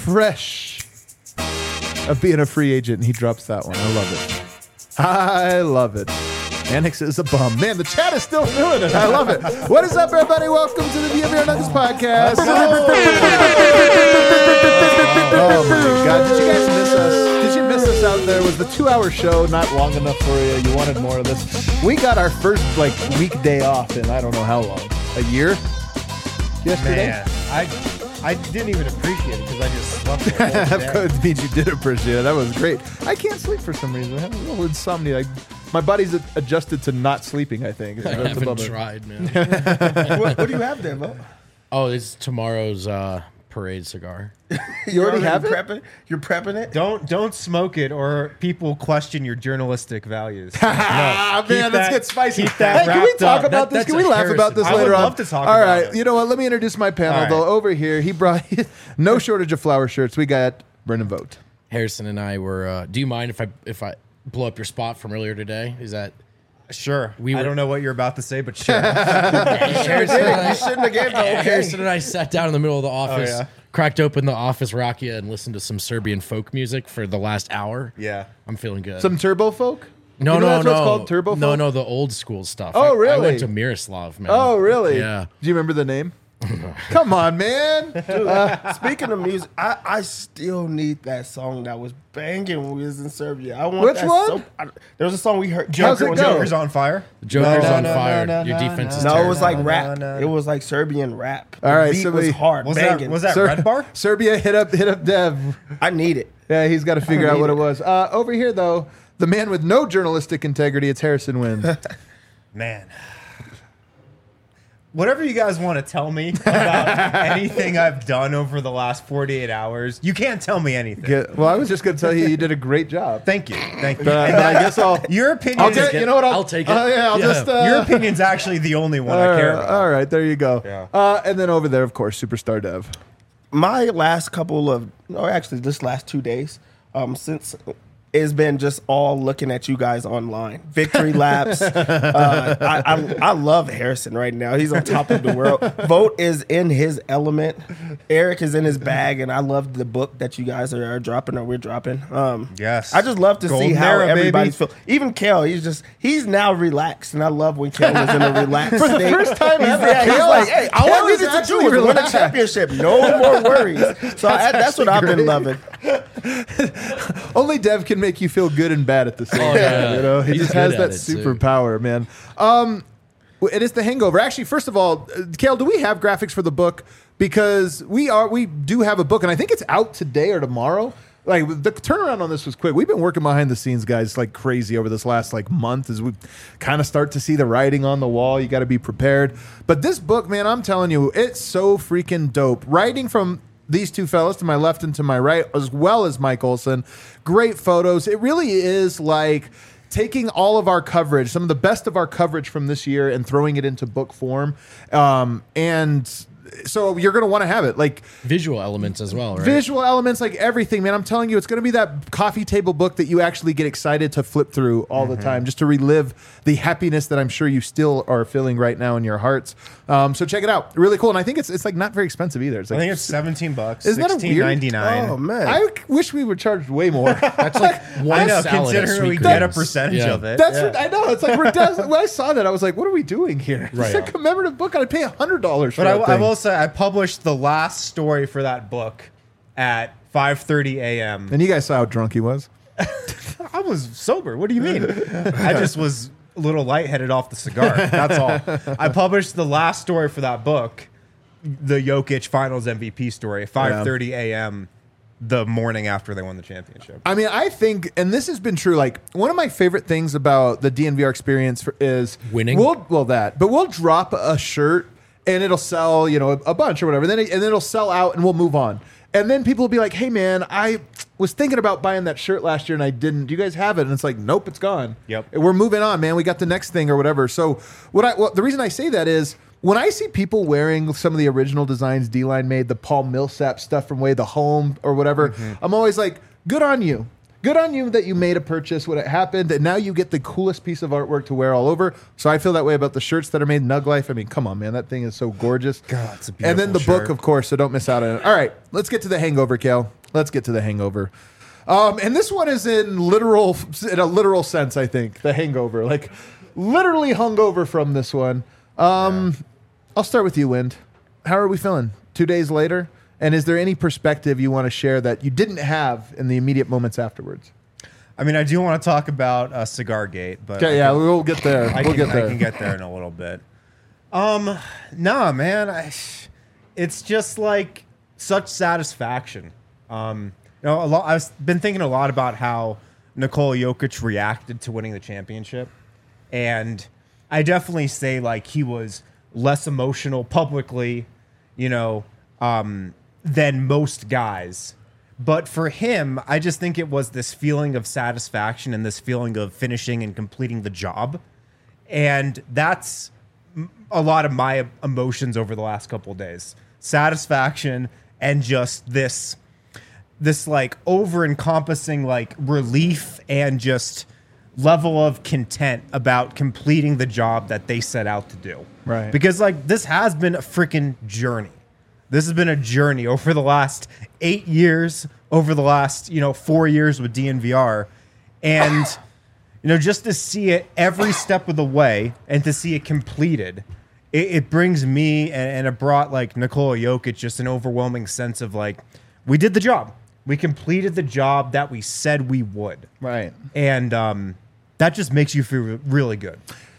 fresh of being a free agent, and he drops that one. I love it. I love it. Annex is a bum. Man, the chat is still doing it. I love it. What is up, everybody? Welcome to the DNVR Nuggets podcast. Oh, my God. Did you guys miss us? Did you miss us out there? Was the 2-hour show not long enough for you? You wanted more of this? We got our first, weekday off in I don't know how long. A year? Yesterday? Man, I didn't even appreciate it because I just slept the whole day. Of course, it means you did appreciate it. That was great. I can't sleep for some reason. I have a little insomnia. My body's adjusted to not sleeping, I think. I haven't tried, man. What do you have there, Bo? Oh, it's tomorrow's parade cigar. You already have it? You're prepping it? Don't smoke it, or people question your journalistic values. Man, let's get spicy. Keep that Hey, can we wrapped talk up. about this? That's Can we a laugh about this I would later on? love to talk All about right. it. You know what? Let me introduce my panel, All right. though. Over here, he brought no shortage of flower shirts. We got Brendan Vogt. Harrison and I were. Do you mind if I blow up your spot from earlier today? Is that Sure. We I were- don't know what you're about to say, but sure. Harrison and I, You shouldn't have gave the okay. Harrison and I sat down in the middle of the office, yeah. cracked open the Office Rakia, and listened to some Serbian folk music for the last hour. Yeah. I'm feeling good. Some turbo folk? no, You know no, that's no. what it's called, turbo No, folk? no, the old school stuff. Oh, I really? went to Miroslav, man. Oh, really? Yeah. Do you remember the name? Come on, man. Speaking of music, I still need that song that was banging when we was in Serbia. I want Which that one? There was a song we heard. How's it go? Joker's on fire. The Joker's No, on no, fire. no, Your no, defense no. is No, terrible. it was like No, rap. no. It was like Serbian rap. All right, the beat so was we- hard, Was banging. that Red Bar? Serbia, hit up Dev. I need it. Yeah, he's got to figure out need what it it. was. Over here, though, the man with no journalistic integrity, it's Harrison Wind. Man. Whatever you guys want to tell me about anything I've done over the last 48 hours, you can't tell me anything. Well, I was just going to tell you did a great job. Thank you. Thank you. But I guess Your opinion I'll is get, you know what? I'll take it. I'll Yeah. just. your opinion's actually the only one I care about. All right, there you go. Yeah. And then over there, of course, Superstar Dev. My last couple of, or actually this last 2 days, since it's been just all looking at you guys online. Victory laps. I love Harrison right now. He's on top of the world. Vogt is in his element. Eric is in his bag, and I love the book that you guys are dropping or we're dropping. Yes. I just love to see Golden how era, everybody's baby. feeling. Even Kale, he's now relaxed, and I love when Kale is in a relaxed For the state. first time he's, ever, he's Kale like, is- hey, all Kale I is needed to actually do was win a relaxed. championship. No more worries. So that's what I've been loving. Only Dev can make you feel good and bad at the same time. yeah. You know, he He's just has good that at it, too. superpower, man. It is The Hangover. Actually, first of all, Kale, do we have graphics for the book? Because we do have a book, and I think it's out today or tomorrow. Like the turnaround on this was quick. We've been working behind the scenes, guys, like crazy over this last month as we kind of start to see the writing on the wall. You got to be prepared. But this book, man, I'm telling you, it's so freaking dope. Writing from these two fellas to my left and to my right, as well as Mike Olson. Great photos. It really is like taking all of our coverage, some of the best of our coverage from this year, and throwing it into book form. And so you're going to want to have it. Like Visual elements as well, right? visual elements, like everything, man. I'm telling you, it's going to be that coffee table book that you actually get excited to flip through all the time, just to relive the happiness that I'm sure you still are feeling right now in your hearts. So check it out. Really cool. And I think it's like not very expensive either. It's I like think it's $17. Isn't that a weird- $16.99. Oh, man. I wish we were charged way more. That's like one I know, salad at considering we Sweet get a Greens. percentage Yeah. of it. That's what I know. It's like when I saw that, I was like, "What are we doing here?" Right. It's a commemorative book. I'd pay $100 for But that I thing. will say, I published the last story for that book at 5:30 a.m. And you guys saw how drunk he was. I was sober. What do you mean? I just was a little lightheaded off the cigar. That's all. I published the last story for that book, the Jokic Finals MVP story, at 5:30 a.m. the morning after they won the championship. I mean, I think, and this has been true. Like one of my favorite things about the DNVR experience is Winning? But we'll drop a shirt and it'll sell, a bunch or whatever. And then it'll sell out and we'll move on. And then people will be like, "Hey, man, I was thinking about buying that shirt last year and I didn't. Do you guys have it?" And it's like, "Nope, it's gone. Yep. We're moving on, man. We got the next thing or whatever." So the reason I say that is when I see people wearing some of the original designs D-Line made, the Paul Millsap stuff from Way the Home or whatever, I'm always like, good on you. good on you that you made a purchase when it happened, and now you get the coolest piece of artwork to wear all over. So I feel that way about the shirts that are made Nug Life. I mean, come on, man, that thing is so gorgeous. God, it's a And then the beautiful book, shirt. of course, so don't miss out on it. All right, let's get to The Hangover, Kale. Let's get to The Hangover. And this one is in a literal sense, I think. The Hangover, like literally hungover from this one. I'll start with you, Wind. How are we feeling 2 days later? And is there any perspective you want to share that you didn't have in the immediate moments afterwards? I mean, I do want to talk about Cigar Gate, but Okay, yeah, we'll get there. I We'll can, get there. I can get there in a little bit. Nah, man, it's just like such satisfaction. You know, I've been thinking a lot about how Nikola Jokic reacted to winning the championship, and I definitely say like he was less emotional publicly, you know, than most guys. But for him, I just think it was this feeling of satisfaction and this feeling of finishing and completing the job. And that's a lot of my emotions over the last couple of days. Satisfaction and just this like over-encompassing like relief and just level of content about completing the job that they set out to do. Right. Because like this has been a freaking journey. This has been a journey over the last 8 years, over the last, 4 years with DNVR. And, just to see it every step of the way and to see it completed, it brings me and it brought like Nikola Jokic just an overwhelming sense of like, we did the job. We completed the job that we said we would. Right. And that just makes you feel really good.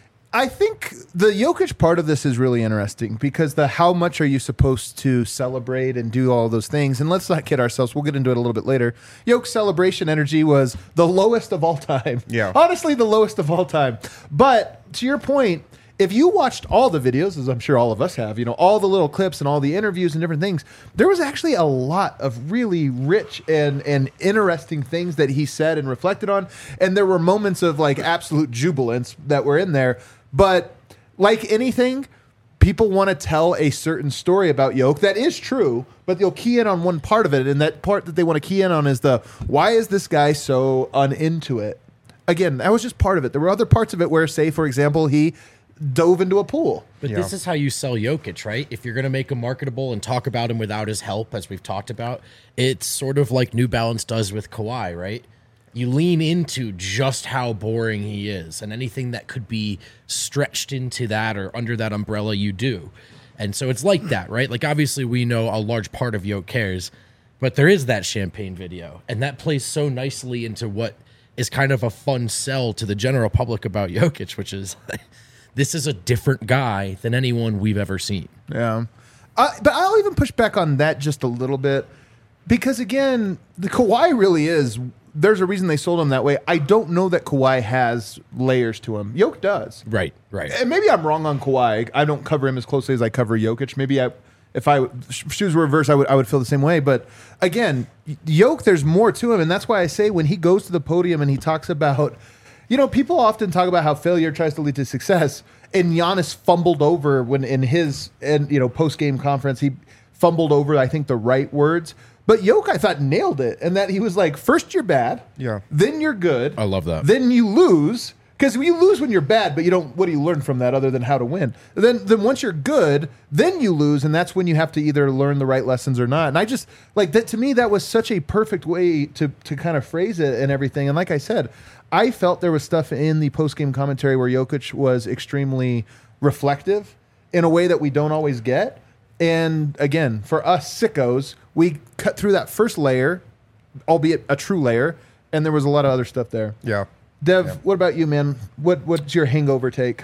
I think the Jokic part of this is really interesting because how much are you supposed to celebrate and do all those things? And let's not kid ourselves. We'll get into it a little bit later. Jokic's celebration energy was the lowest of all time. Yeah. Honestly, the lowest of all time. But to your point, if you watched all the videos, as I'm sure all of us have, all the little clips and all the interviews and different things, there was actually a lot of really rich and interesting things that he said and reflected on. And there were moments of like absolute jubilance that were in there. But like anything, people want to tell a certain story about Yoke that is true, but they'll key in on one part of it. And that part that they want to key in on is why is this guy so uninto it? Again, that was just part of it. There were other parts of it where, say, for example, he dove into a pool. But this is how you sell Jokic, right? If you're going to make him marketable and talk about him without his help, as we've talked about, it's sort of like New Balance does with Kawhi, right? You lean into just how boring he is, and anything that could be stretched into that or under that umbrella, you do. And so it's like that, right? Like, obviously, we know a large part of Yoke cares, but there is that champagne video, and that plays so nicely into what is kind of a fun sell to the general public about Jokic, which is this is a different guy than anyone we've ever seen. Yeah. But I'll even push back on that just a little bit because, again, the Kawhi really is. There's a reason they sold him that way. I don't know that Kawhi has layers to him. Yoke does. Right. And maybe I'm wrong on Kawhi. I don't cover him as closely as I cover Jokic. Maybe if shoes were reversed, I would feel the same way. But again, Yoke, there's more to him. And that's why I say when he goes to the podium and he talks about, people often talk about how failure tries to lead to success. And Giannis fumbled over when in his post-game conference, he fumbled over, I think, the right words. But Yoke, I thought, nailed it. And that he was like, first you're bad. Yeah. Then you're good. I love that. Then you lose. Because you lose when you're bad, but what do you learn from that other than how to win? Then once you're good, then you lose. And that's when you have to either learn the right lessons or not. And I just, like, that to me, that was such a perfect way to kind of phrase it and everything. And like I said, I felt there was stuff in the post-game commentary where Jokic was extremely reflective in a way that we don't always get. And again, for us sickos, we cut through that first layer, albeit a true layer, and there was a lot of other stuff there. Yeah. Dev, what about you, man? What's your hangover take?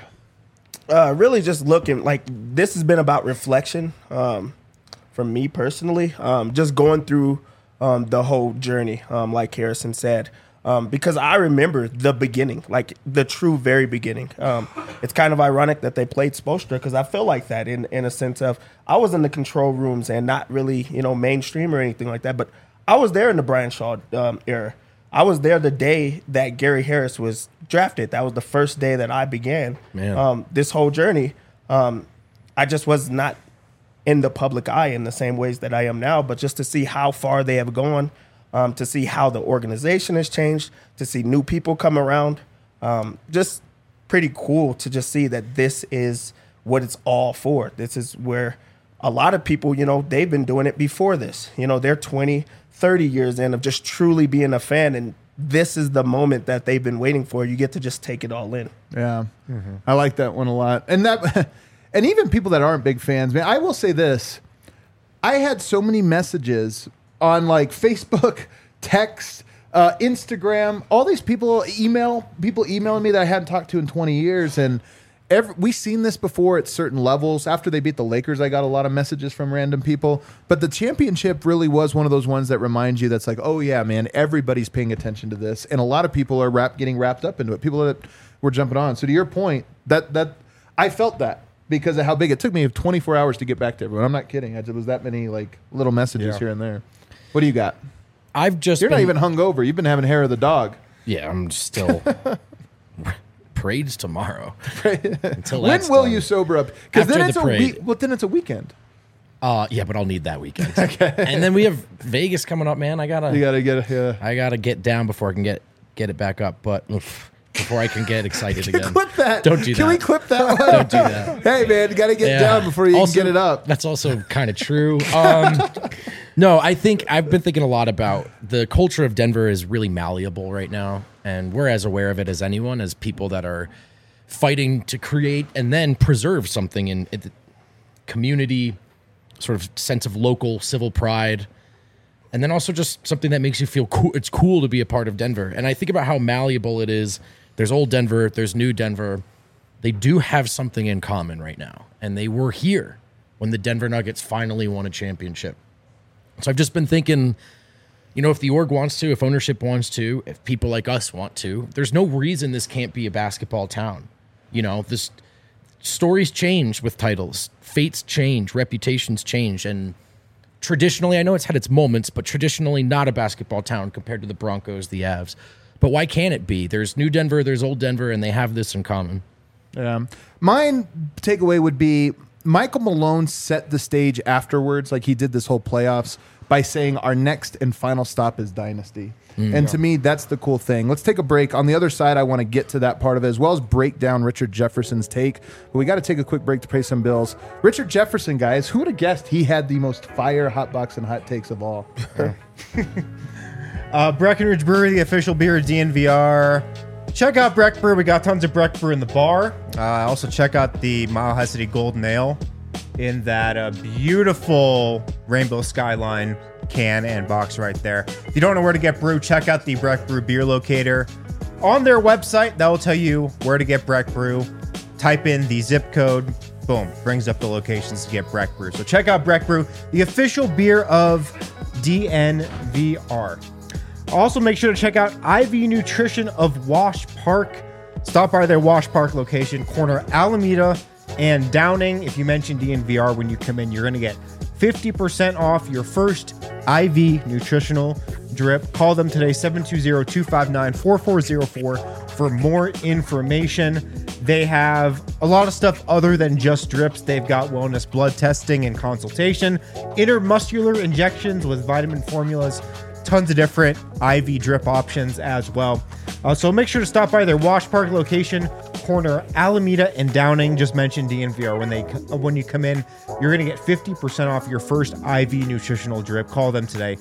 Really just looking, like, this has been about reflection from me personally, just going through the whole journey, like Harrison said. Because I remember the beginning, like the true very beginning. It's kind of ironic that they played Spoelstra because I feel like that in a sense of I was in the control rooms and not really, mainstream or anything like that. But I was there in the Brian Shaw era. I was there the day that Gary Harris was drafted. That was the first day that I began this whole journey. I just was not in the public eye in the same ways that I am now. But just to see how far they have gone, to see how the organization has changed, to see new people come around. Just pretty cool to just see that this is what it's all for. This is where a lot of people, they've been doing it before this. They're 20, 30 years in of just truly being a fan, and this is the moment that they've been waiting for. You get to just take it all in. Yeah. I like that one a lot. And and even people that aren't big fans, man, I will say this. I had so many messages on like Facebook, text, Instagram, all these people emailing me that I hadn't talked to in 20 years. And we've seen this before at certain levels. After they beat the Lakers, I got a lot of messages from random people. But the championship really was one of those ones that reminds you that's like, oh, yeah, man, everybody's paying attention to this. And a lot of people are getting wrapped up into it. People that were jumping on. So to your point, that I felt that because of how big it took me 24 hours to get back to everyone. I'm not kidding. It was that many like little messages here and there. What do you got? You're not even hungover. You've been having hair of the dog. Yeah, I'm still... Parade's tomorrow. Until when that's will done. you sober up? Because then After it's the a parade. week. Well, then it's a weekend. Yeah, but I'll need that weekend. Okay. And then we have Vegas coming up, man. You gotta get. I gotta get down before I can get it back up. But before I can get excited again. Clip that. Don't do that. Can we clip that one? Don't do that. Hey, man, you gotta get Yeah. down before you Also, can get it up. That's also kind of true. No, I think I've been thinking a lot about the culture of Denver is really malleable right now, and we're as aware of it as anyone, as people that are fighting to create and then preserve something in the community, sort of sense of local civil pride, and then also just something that makes you feel cool. It's cool to be a part of Denver. And I think about how malleable it is. There's old Denver, there's new Denver. They do have something in common right now, and they were here when the Denver Nuggets finally won a championship. So I've just been thinking, if the org wants to, if ownership wants to, if people like us want to, there's no reason this can't be a basketball town. This stories change with titles, fates change, reputations change, and traditionally, I know it's had its moments, but traditionally not a basketball town compared to the Broncos, the Avs. But why can't it be? There's new Denver, there's old Denver, and they have this in common. Yeah. Mine takeaway would be Michael Malone set the stage afterwards, like he did this whole playoffs, by saying our next and final stop is Dynasty. And to me, that's the cool thing. Let's take a break. On the other side, I want to get to that part of it, as well as break down Richard Jefferson's take. But we got to take a quick break to pay some bills. Richard Jefferson, guys, who would have guessed he had the most fire hot box and hot takes of all? Breckenridge Brewery, the official beer of DNVR. Check out Breck Brew. We got tons of Breck Brew in the bar. Also check out the Mile High City Golden Ale in that beautiful rainbow skyline can and box right there. If you don't know where to get brew, check out the Breck Brew beer locator on their website. That will tell you where to get Breck Brew. Type in the zip code, boom, brings up the locations to get Breck Brew. So check out Breck Brew, the official beer of DNVR. Also make sure to check out IV Nutrition of Wash Park. Stop by their Wash Park location, corner Alameda and Downing. If you mention DNVR when you come in, you're going to get 50% off your first IV nutritional drip. Call them today, 720-259-4404 for more information. They have a lot of stuff other than just drips. They've got wellness blood testing and consultation, intermuscular injections with vitamin formulas, tons of different IV drip options as well. So make sure to stop by their Wash Park location, corner Alameda and Downing. Just mention DNVR when you come in. You're going to get 50% off your first IV nutritional drip. Call them today,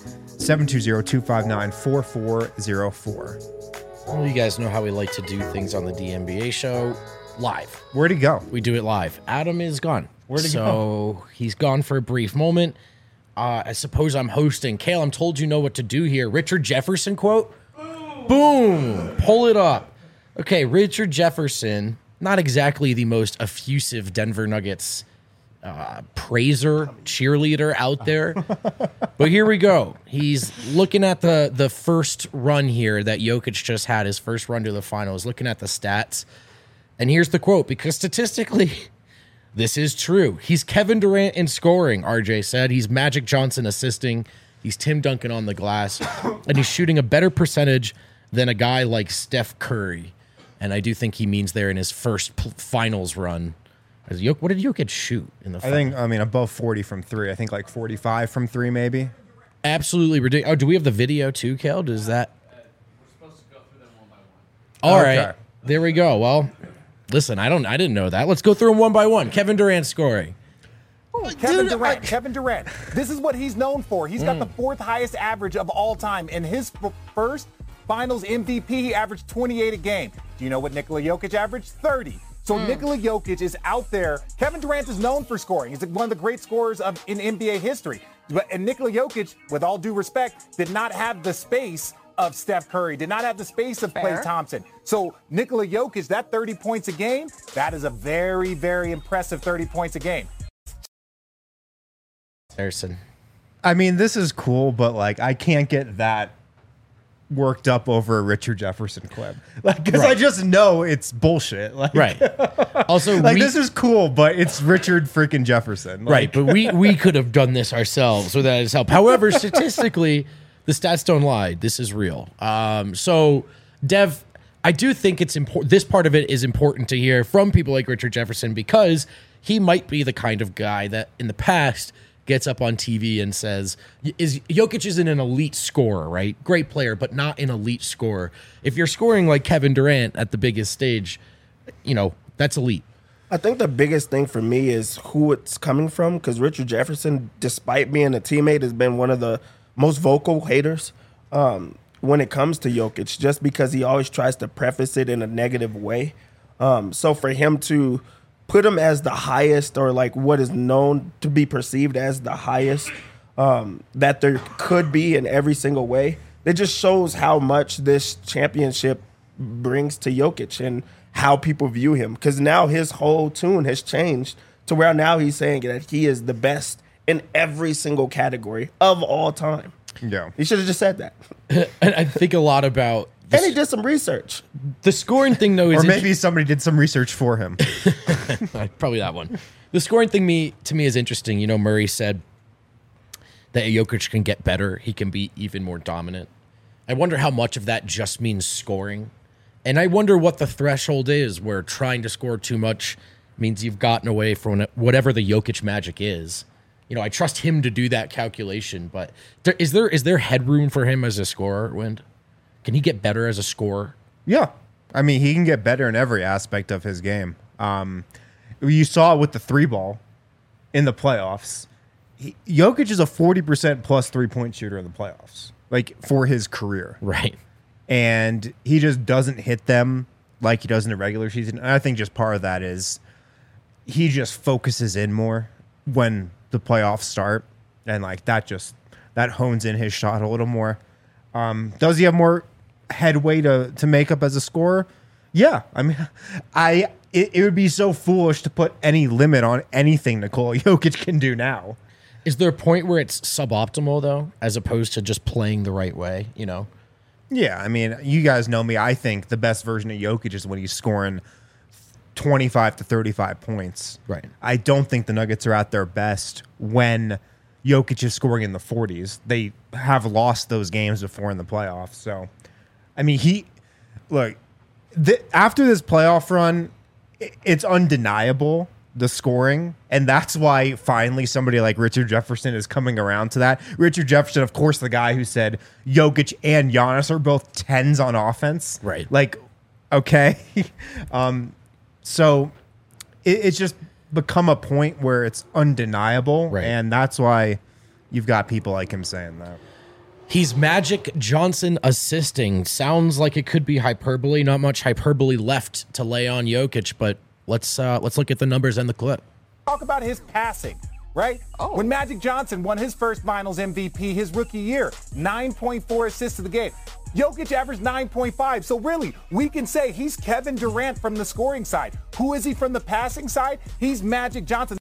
720-259-4404. Well, you guys know how we like to do things on the DNBA show live. Where'd he go? We do it live. Adam is gone. Where'd he go? So he's gone for a brief moment. I suppose I'm hosting. Kale, I'm told you know what to do here. Richard Jefferson quote? Boom. Pull it up. Okay, Richard Jefferson, not exactly the most effusive Denver Nuggets praiser, cheerleader out there. But here we go. He's looking at the first run here that Jokic just had, his first run to the finals, looking at the stats. And here's the quote, because statistically, this is true. He's Kevin Durant in scoring, RJ said. He's Magic Johnson assisting. He's Tim Duncan on the glass. And he's shooting a better percentage than a guy like Steph Curry. And I do think he means there in his first finals run. What did Jokic shoot in the finals? Above 40 from three. I think like 45 from three, maybe. absolutely ridiculous. Oh, do we have the video too, Kale? Does that? We're supposed to go through them one by one. All Okay. right, there we go. Well, listen, I didn't know that. Let's go through them one by one. Kevin Durant scoring. Kevin Durant. This is what he's known for. He's got the fourth highest average of all time. In his first Finals MVP, he averaged 28 a game. Do you know what Nikola Jokic averaged? 30. So Nikola Jokic is out there. Kevin Durant is known for scoring. He's one of the great scorers in NBA history. And Nikola Jokic, with all due respect, did not have the space of Steph Curry, did not have the space of Klay Thompson. So Nikola Jokic, that 30 points a game, that is a very, very impressive 30 points a game. Harrison. I mean, this is cool, but like, I can't get that worked up over a Richard Jefferson clip, like, because I just know it's bullshit. Like, Right. Also, like this is cool, but it's Richard freaking Jefferson. Like, right, but we could have done this ourselves without his help. However, statistically, the stats don't lie. This is real. So, Dev, I do think it's important. This part of it is important to hear from people like Richard Jefferson because he might be the kind of guy that in the past gets up on TV and says, Jokic isn't an elite scorer, right? Great player, but not an elite scorer. If you're scoring like Kevin Durant at the biggest stage, that's elite. I think the biggest thing for me is who it's coming from, because Richard Jefferson, despite being a teammate, has been one of the most vocal haters when it comes to Jokic, just because he always tries to preface it in a negative way. So for him to put him as the highest, or like what is known to be perceived as the highest that there could be in every single way, it just shows how much this championship brings to Jokic and how people view him. Because now his whole tune has changed to where now he's saying that he is the best in every single category of all time. yeah. He should have just said that. And I think a lot about And he did some research. the scoring thing, though, is Or maybe somebody did some research for him. probably that one. The scoring thing to me is interesting. Murray said that Jokic can get better. He can be even more dominant. I wonder how much of that just means scoring. And I wonder what the threshold is where trying to score too much means you've gotten away from whatever the Jokic magic is. I trust him to do that calculation, but is there headroom for him as a scorer, Wind? Can he get better as a scorer? Yeah. I mean, he can get better in every aspect of his game. You saw it with the 3-ball in the playoffs. Jokic is a 40% plus 3-point shooter in the playoffs, like for his career. Right. And he just doesn't hit them like he does in the regular season. And I think just part of that is he just focuses in more when the playoffs start. And like that hones in his shot a little more. Does he have more headway to make up as a scorer? Yeah. I mean, it would be so foolish to put any limit on anything Nikola Jokic can do now. Is there a point where it's suboptimal, though, as opposed to just playing the right way, Yeah, I mean, you guys know me. I think the best version of Jokic is when he's scoring 25 to 35 points. Right. I don't think the Nuggets are at their best when Jokic is scoring in the 40s. They have lost those games before in the playoffs. So, I mean, after this playoff run, it's undeniable, the scoring. And that's why finally somebody like Richard Jefferson is coming around to that. Richard Jefferson, of course, the guy who said Jokic and Giannis are both 10s on offense. Right. Like, okay. So it's just become a point where it's undeniable. Right. And that's why you've got people like him saying that. He's Magic Johnson assisting. Sounds like it could be hyperbole. Not much hyperbole left to lay on Jokic, but let's look at the numbers and the clip. Talk about his passing, right? When Magic Johnson won his first Finals MVP his rookie year, 9.4 assists to the game. Jokic averaged 9.5. So really, we can say he's Kevin Durant from the scoring side. Who is he from the passing side? He's Magic Johnson.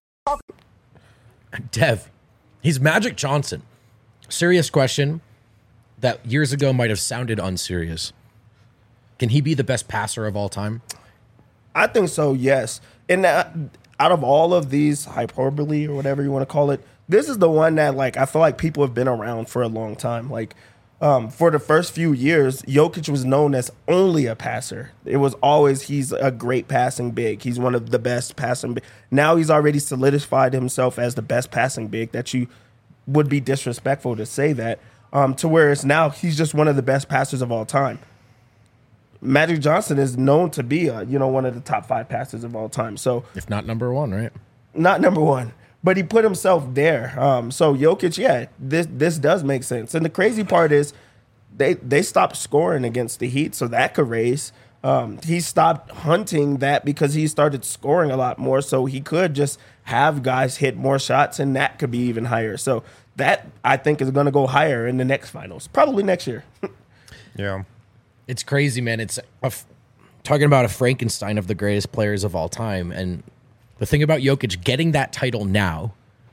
Dev, he's Magic Johnson. Serious question that years ago might have sounded unserious. Can he be the best passer of all time? I think so, yes. And out of all of these hyperbole or whatever you want to call it, this is the one that I feel like people have been around for a long time. For the first few years, Jokic was known as only a passer. It was always he's a great passing big. He's one of the best passing big. Now he's already solidified himself as the best passing big that you would be disrespectful to say that. To where it's now he's just one of the best passers of all time. Magic Johnson is known to be one of the top 5 passers of all time. So if not number one, right? Not number one, but he put himself there. So Jokic, this does make sense. And the crazy part is they stopped scoring against the Heat, so that could raise. He stopped hunting that because he started scoring a lot more, so he could just have guys hit more shots, and that could be even higher. So that, I think, is going to go higher in the next finals, probably next year. Yeah. It's crazy, man. It's talking about a Frankenstein of the greatest players of all time. And the thing about Jokic getting that title now,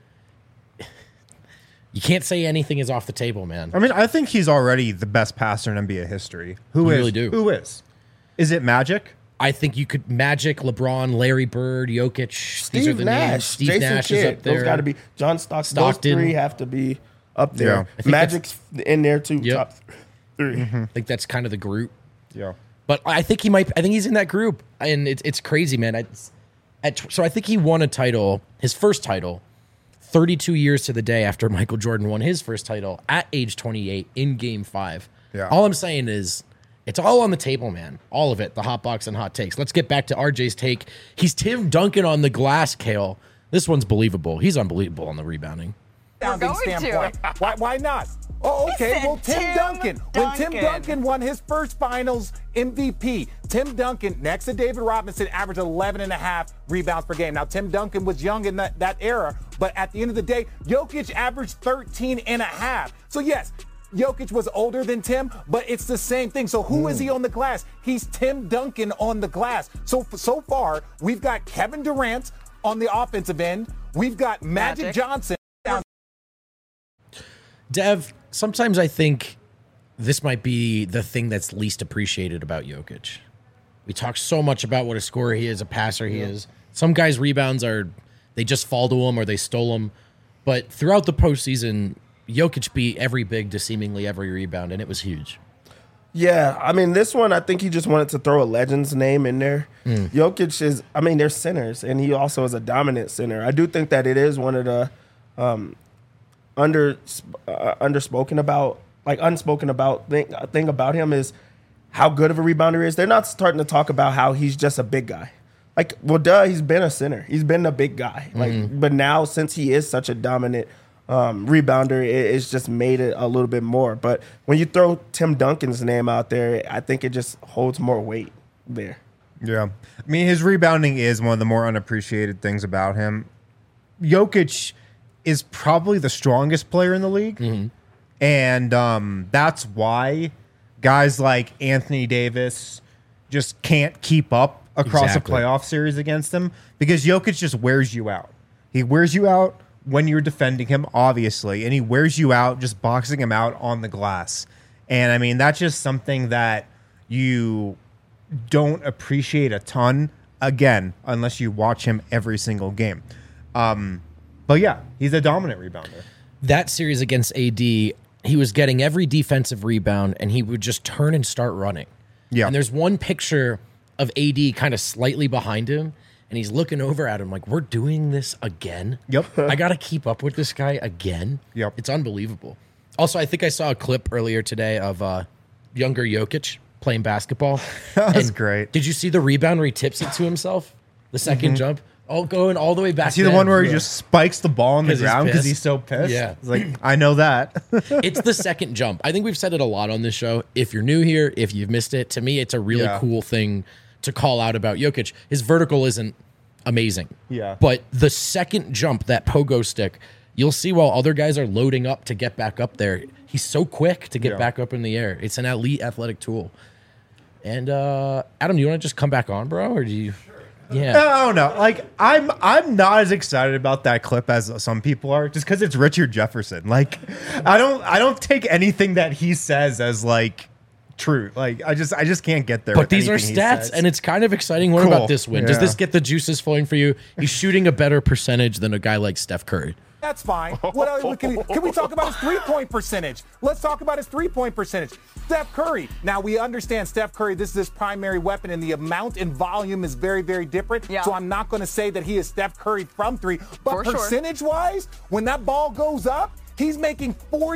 you can't say anything is off the table, man. I mean, I think he's already the best passer in NBA history. You really do. Who is? Is it Magic? I think you could Magic, LeBron, Larry Bird, Jokic. These are Steve the Nash, names. Steve Jason Nash Kidd, is up there. Those got to be John Stockton. Stockton. Those 3 have to be up there. Yeah. Magic's in there too. Yep. Top 3. I think that's kind of the group. Yeah. But I think he might. I think he's in that group, and it's crazy, man. So I think he won a title, his first title, 32 years to the day after Michael Jordan won his first title at age 28 in Game 5. Yeah. All I'm saying is, it's all on the table, man. All of it. The hot box and hot takes. Let's get back to RJ's take. He's Tim Duncan on the glass, Kale. This one's believable. He's unbelievable on the rebounding. Standpoint. Why not? Oh, okay. Well, Tim Duncan. When Tim Duncan won his first finals MVP, Tim Duncan, next to David Robinson, averaged 11.5 rebounds per game. Now, Tim Duncan was young in that era, but at the end of the day, Jokic averaged 13.5. So, yes, Jokic was older than Tim, but it's the same thing. So who is he on the glass? He's Tim Duncan on the glass. So far, we've got Kevin Durant on the offensive end. We've got Magic Johnson. Dev, sometimes I think this might be the thing that's least appreciated about Jokic. We talk so much about what a scorer he is, a passer he is. Some guys' rebounds they just fall to him or they stole them. But throughout the postseason, Jokic beat every big to seemingly every rebound, and it was huge. Yeah, I mean, this one, I think he just wanted to throw a legend's name in there. Jokic is, I mean, they're centers, and he also is a dominant center. I do think that it is one of the unspoken about thing about him is how good of a rebounder he is. They're not starting to talk about how he's just a big guy. Like, well, he's been a center. He's been a big guy. But now, since he is such a dominant rebounder, it's just made it a little bit more. But when you throw Tim Duncan's name out there, I think it just holds more weight there. Yeah. I mean, his rebounding is one of the more unappreciated things about him. Jokic is probably the strongest player in the league. And that's why guys like Anthony Davis just can't keep up across a playoff series against him, because Jokic just wears you out. He wears you out when you're defending him, obviously, and he wears you out just boxing him out on the glass. And, I mean, that's just something that you don't appreciate a ton, again, unless you watch him every single game. But, yeah, he's a dominant rebounder. That series against AD, he was getting every defensive rebound, and he would just turn and start running. Yeah. And there's one picture of AD kind of slightly behind him, and he's looking over at him like, we're doing this again? Yep. I got to keep up with this guy again? Yep. It's unbelievable. Also, I think I saw a clip earlier today of younger Jokic playing basketball. That was great. Did you see the rebound where he tips it to himself? The second jump? Going all the way back. See the one where he just spikes the ball on the 'Cause he's ground because pissed? he's so pissed? Yeah. It's like, I know that. It's the second jump. I think we've said it a lot on this show. If you're new here, if you've missed it, to me, it's a really cool thing to call out about Jokic. His vertical isn't amazing. Yeah. But the second jump, that pogo stick, you'll see while other guys are loading up to get back up there, he's so quick to get back up in the air. It's an elite athletic tool. And Adam, do you want to just come back on, bro? Or do you... Yeah. I don't know. Like, I'm not as excited about that clip as some people are, just because it's Richard Jefferson. Like, I don't take anything that he says as like true. Like, I just can't get there. But these are stats, and it's kind of exciting. What about this win? Does this get the juices flowing for you? He's shooting a better percentage than a guy like Steph Curry. That's fine. What else can we talk about his three-point percentage? Let's talk about his three-point percentage. Steph Curry. Now, we understand Steph Curry, this is his primary weapon, and the amount and volume is very, very different. Yeah. So I'm not going to say that he is Steph Curry from three. But percentage-wise, when that ball goes up, He's making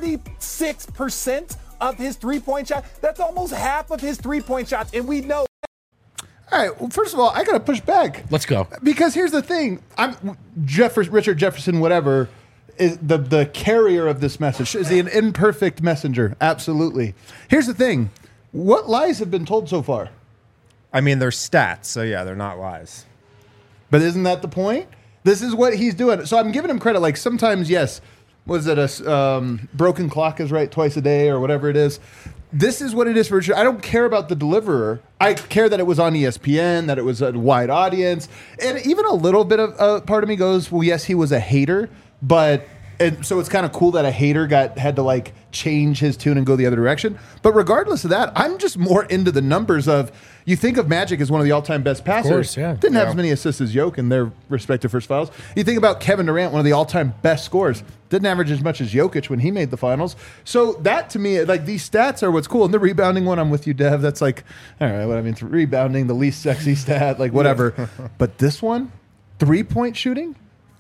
46% of his three-point shot. That's almost half of his three-point shots, and we know. All right. Well, first of all, I got to push back. Let's go. Because here's the thing. Richard Jefferson, whatever, is the carrier of this message. Is he an imperfect messenger? Absolutely. Here's the thing. What lies have been told so far? I mean, they're stats, so yeah, they're not lies. But isn't that the point? This is what he's doing. So I'm giving him credit. Like sometimes, yes, was it a broken clock is right twice a day or whatever it is. This is what it is for Richard. I don't care about the deliverer. I care that it was on ESPN, that it was a wide audience. And even a little bit of part of me goes, well, yes, he was a hater, but and so it's kind of cool that a hater had to like change his tune and go the other direction. But regardless of that, I'm just more into the numbers of, you think of Magic as one of the all-time best passers. Of course, yeah. Didn't have as many assists as Jokic in their respective first finals. You think about Kevin Durant, one of the all-time best scorers. Didn't average as much as Jokic when he made the finals. So that, to me, like these stats are what's cool. And the rebounding one, I'm with you, Dev. That's like, all right, what I mean, rebounding, the least sexy stat, like whatever. But this one, three-point shooting,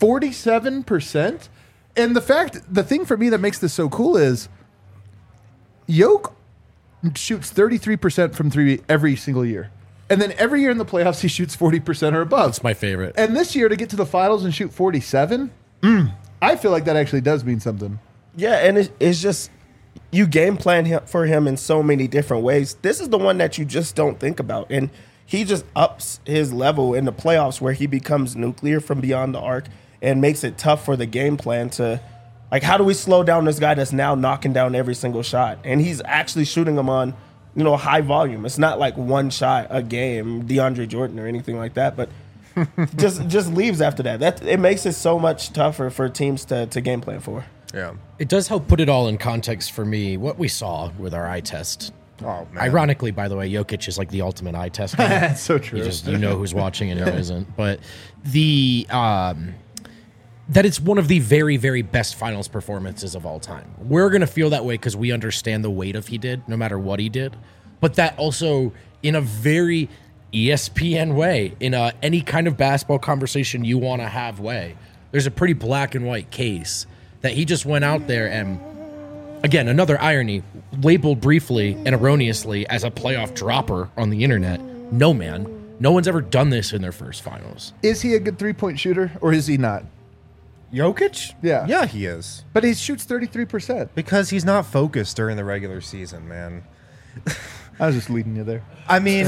47%. And the thing for me that makes this so cool is Jokic shoots 33% from three every single year. And then every year in the playoffs, he shoots 40% or above. That's my favorite. And this year, to get to the finals and shoot 47, I feel like that actually does mean something. Yeah, and it's just you game plan for him in so many different ways. This is the one that you just don't think about. And he just ups his level in the playoffs where he becomes nuclear from beyond the arc and makes it tough for the game plan to, like, how do we slow down this guy that's now knocking down every single shot? And he's actually shooting them on, high volume. It's not like one shot a game, DeAndre Jordan or anything like that, but just leaves after that. It makes it so much tougher for teams to game plan for. Yeah. It does help put it all in context for me, what we saw with our eye test. Oh, man. Ironically, by the way, Jokic is like the ultimate eye test. That's so true. You know who's watching and who isn't. But that it's one of the very, very best finals performances of all time. We're going to feel that way because we understand the weight of he did, no matter what he did. But that also, in a very ESPN way, in any kind of basketball conversation you want to have way, there's a pretty black and white case that he just went out there and, again, another irony, labeled briefly and erroneously as a playoff dropper on the internet. No, man. No one's ever done this in their first finals. Is he a good three-point shooter or is he not? Jokic? Yeah. Yeah, he is. But he shoots 33%. Because he's not focused during the regular season, man. I was just leading you there. I mean,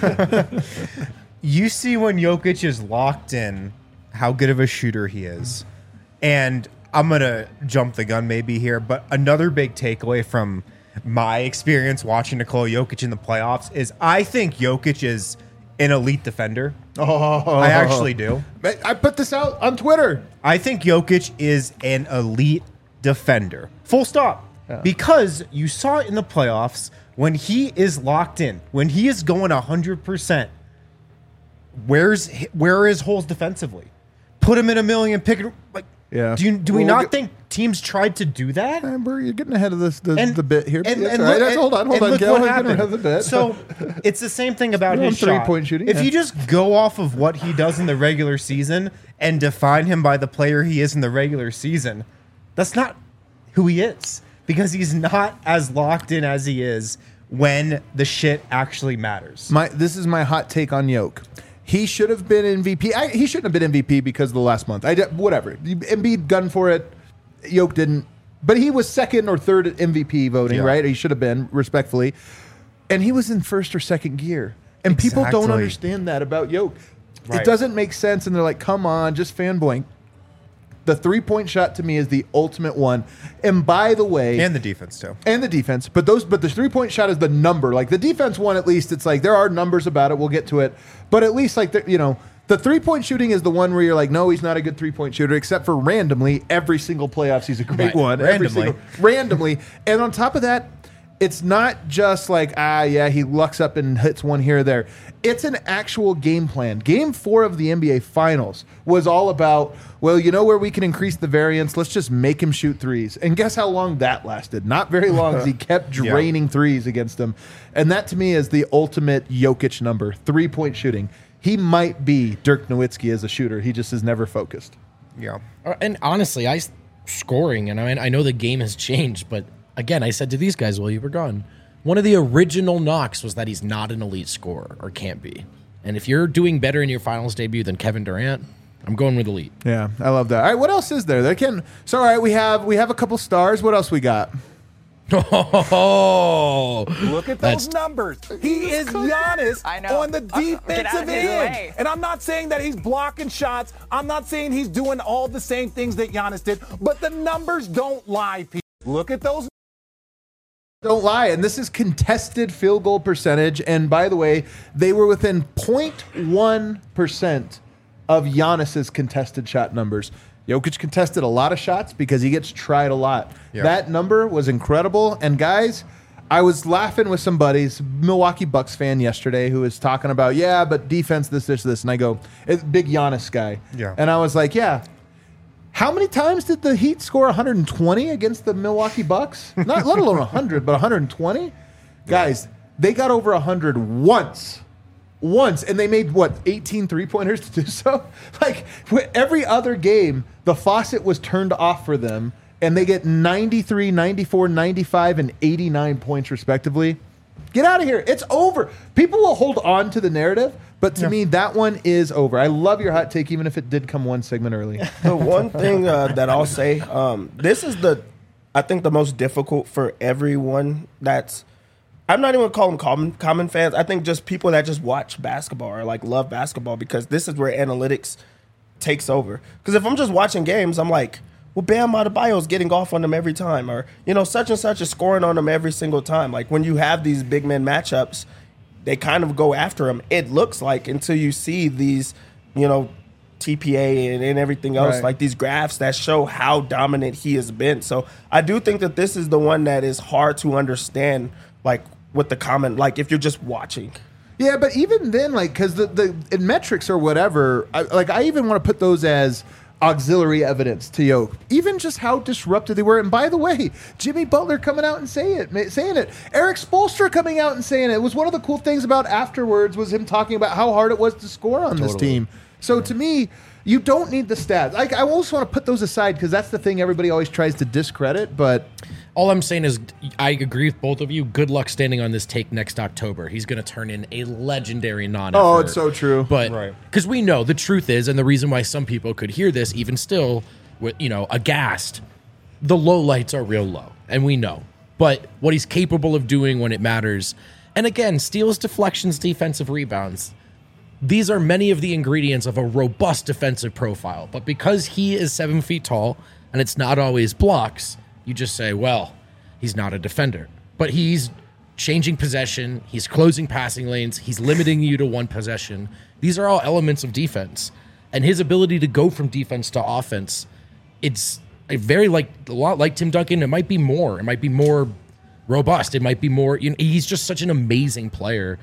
you see when Jokic is locked in, how good of a shooter he is. And I'm going to jump the gun maybe here, but another big takeaway from my experience watching Nikola Jokic in the playoffs is I think Jokic is an elite defender. I actually do. I put this out on Twitter. I think Jokic is an elite defender. Full stop. Yeah. Because you saw it in the playoffs when he is locked in, when he is going 100%, where are his holes defensively? Put him in a million, pick it. Like, yeah. Do we not think teams tried to do that? Amber, you're getting ahead of the bit here. And That's look, all right. Hold on, look Kel. what We're getting ahead happened. of the bit. So it's the same thing about his shot. Three-point shooting. If yeah. you just go off of what he does in the regular season and define him by the player he is in the regular season, that's not who he is, because he's not as locked in as he is when the shit actually matters. This is my hot take on Jokic. He should have been MVP. He shouldn't have been MVP because of the last month. Whatever. Embiid gunned for it. Jokic didn't. But he was second or third at MVP voting, right? He should have been, respectfully. And he was in first or second gear. And people don't Exactly. understand that about Jokic. Right. It doesn't make sense. And they're like, come on, just fanboying. The three-point shot to me is the ultimate one. And by the way... And the defense, too. And the defense. But the three-point shot is the number. Like, the defense one, at least, it's like, there are numbers about it. We'll get to it. But at least, like, the three-point shooting is the one where you're like, no, he's not a good three-point shooter, except for randomly, every single playoffs, he's a great one. Randomly. And on top of that, it's not just like, he lucks up and hits one here or there. It's an actual game plan. Game 4 of the NBA Finals was all about, well, you know where we can increase the variance? Let's just make him shoot threes. And guess how long that lasted? Not very long, as he kept draining threes against him. And that, to me, is the ultimate Jokic number, three-point shooting. He might be Dirk Nowitzki as a shooter. He just is never focused. Yeah. And honestly, I scoring, and I know the game has changed, but again, I said to these guys while you were gone, one of the original knocks was that he's not an elite scorer or can't be. And if you're doing better in your finals debut than Kevin Durant, I'm going with elite. Yeah, I love that. All right, what else is there? So all right, we have a couple stars. What else we got? Oh, Look at those numbers. He is Giannis on the defensive end. And I'm not saying that he's blocking shots. I'm not saying he's doing all the same things that Giannis did, but the numbers don't lie, people. Look at those. Don't lie. And this is contested field goal percentage. And by the way, they were within 0.1% of Giannis's contested shot numbers. Jokic contested a lot of shots because he gets tried a lot. Yep. That number was incredible. And guys, I was laughing with some buddies, Milwaukee Bucks fan yesterday, who was talking about, yeah, but defense, this. And I go, big Giannis guy. Yeah. And I was like, yeah. How many times did the Heat score 120 against the Milwaukee Bucks? Not let alone 100, but 120? Yeah. Guys, they got over 100 once, and they made, 18 three-pointers to do so? Like, every other game, the faucet was turned off for them, and they get 93, 94, 95, and 89 points, respectively. Get out of here. It's over. People will hold on to the narrative, but to me, that one is over. I love your hot take, even if it did come one segment early. The one thing that I'll say, this is I think the most difficult for everyone that's, I'm not even calling them common fans. I think just people that just watch basketball or like love basketball, because this is where analytics takes over. Because if I'm just watching games, I'm like, well, Bam Adebayo is getting off on them every time, or such and such is scoring on them every single time. Like when you have these big men matchups, they kind of go after him. It looks like, until you see these, TPA and everything else, right, like these graphs that show how dominant he has been. So I do think that this is the one that is hard to understand, like with the comment, like if you're just watching. Yeah, but even then, like, because the metrics or whatever, I even want to put those as auxiliary evidence to Yoke, even just how disruptive they were. And by the way, Jimmy Butler coming out and saying it, Eric Spoelstra coming out and saying it was one of the cool things about afterwards was him talking about how hard it was to score on this team. So to me, you don't need the stats. I also want to put those aside because that's the thing everybody always tries to discredit. But all I'm saying is I agree with both of you. Good luck standing on this take next October. He's going to turn in a legendary non-effort. Oh, it's so true. But because we know the truth is, and the reason why some people could hear this even still, aghast, the low lights are real low, and we know. But what he's capable of doing when it matters, and again, steals, deflections, defensive rebounds, these are many of the ingredients of a robust defensive profile. But because he is 7 feet tall, and it's not always blocks, you just say, well, he's not a defender. But he's changing possession, he's closing passing lanes, he's limiting you to one possession. These are all elements of defense. And his ability to go from defense to offense, it's a lot like Tim Duncan. It might be more. It might be more robust. It might be more. He's just such an amazing player.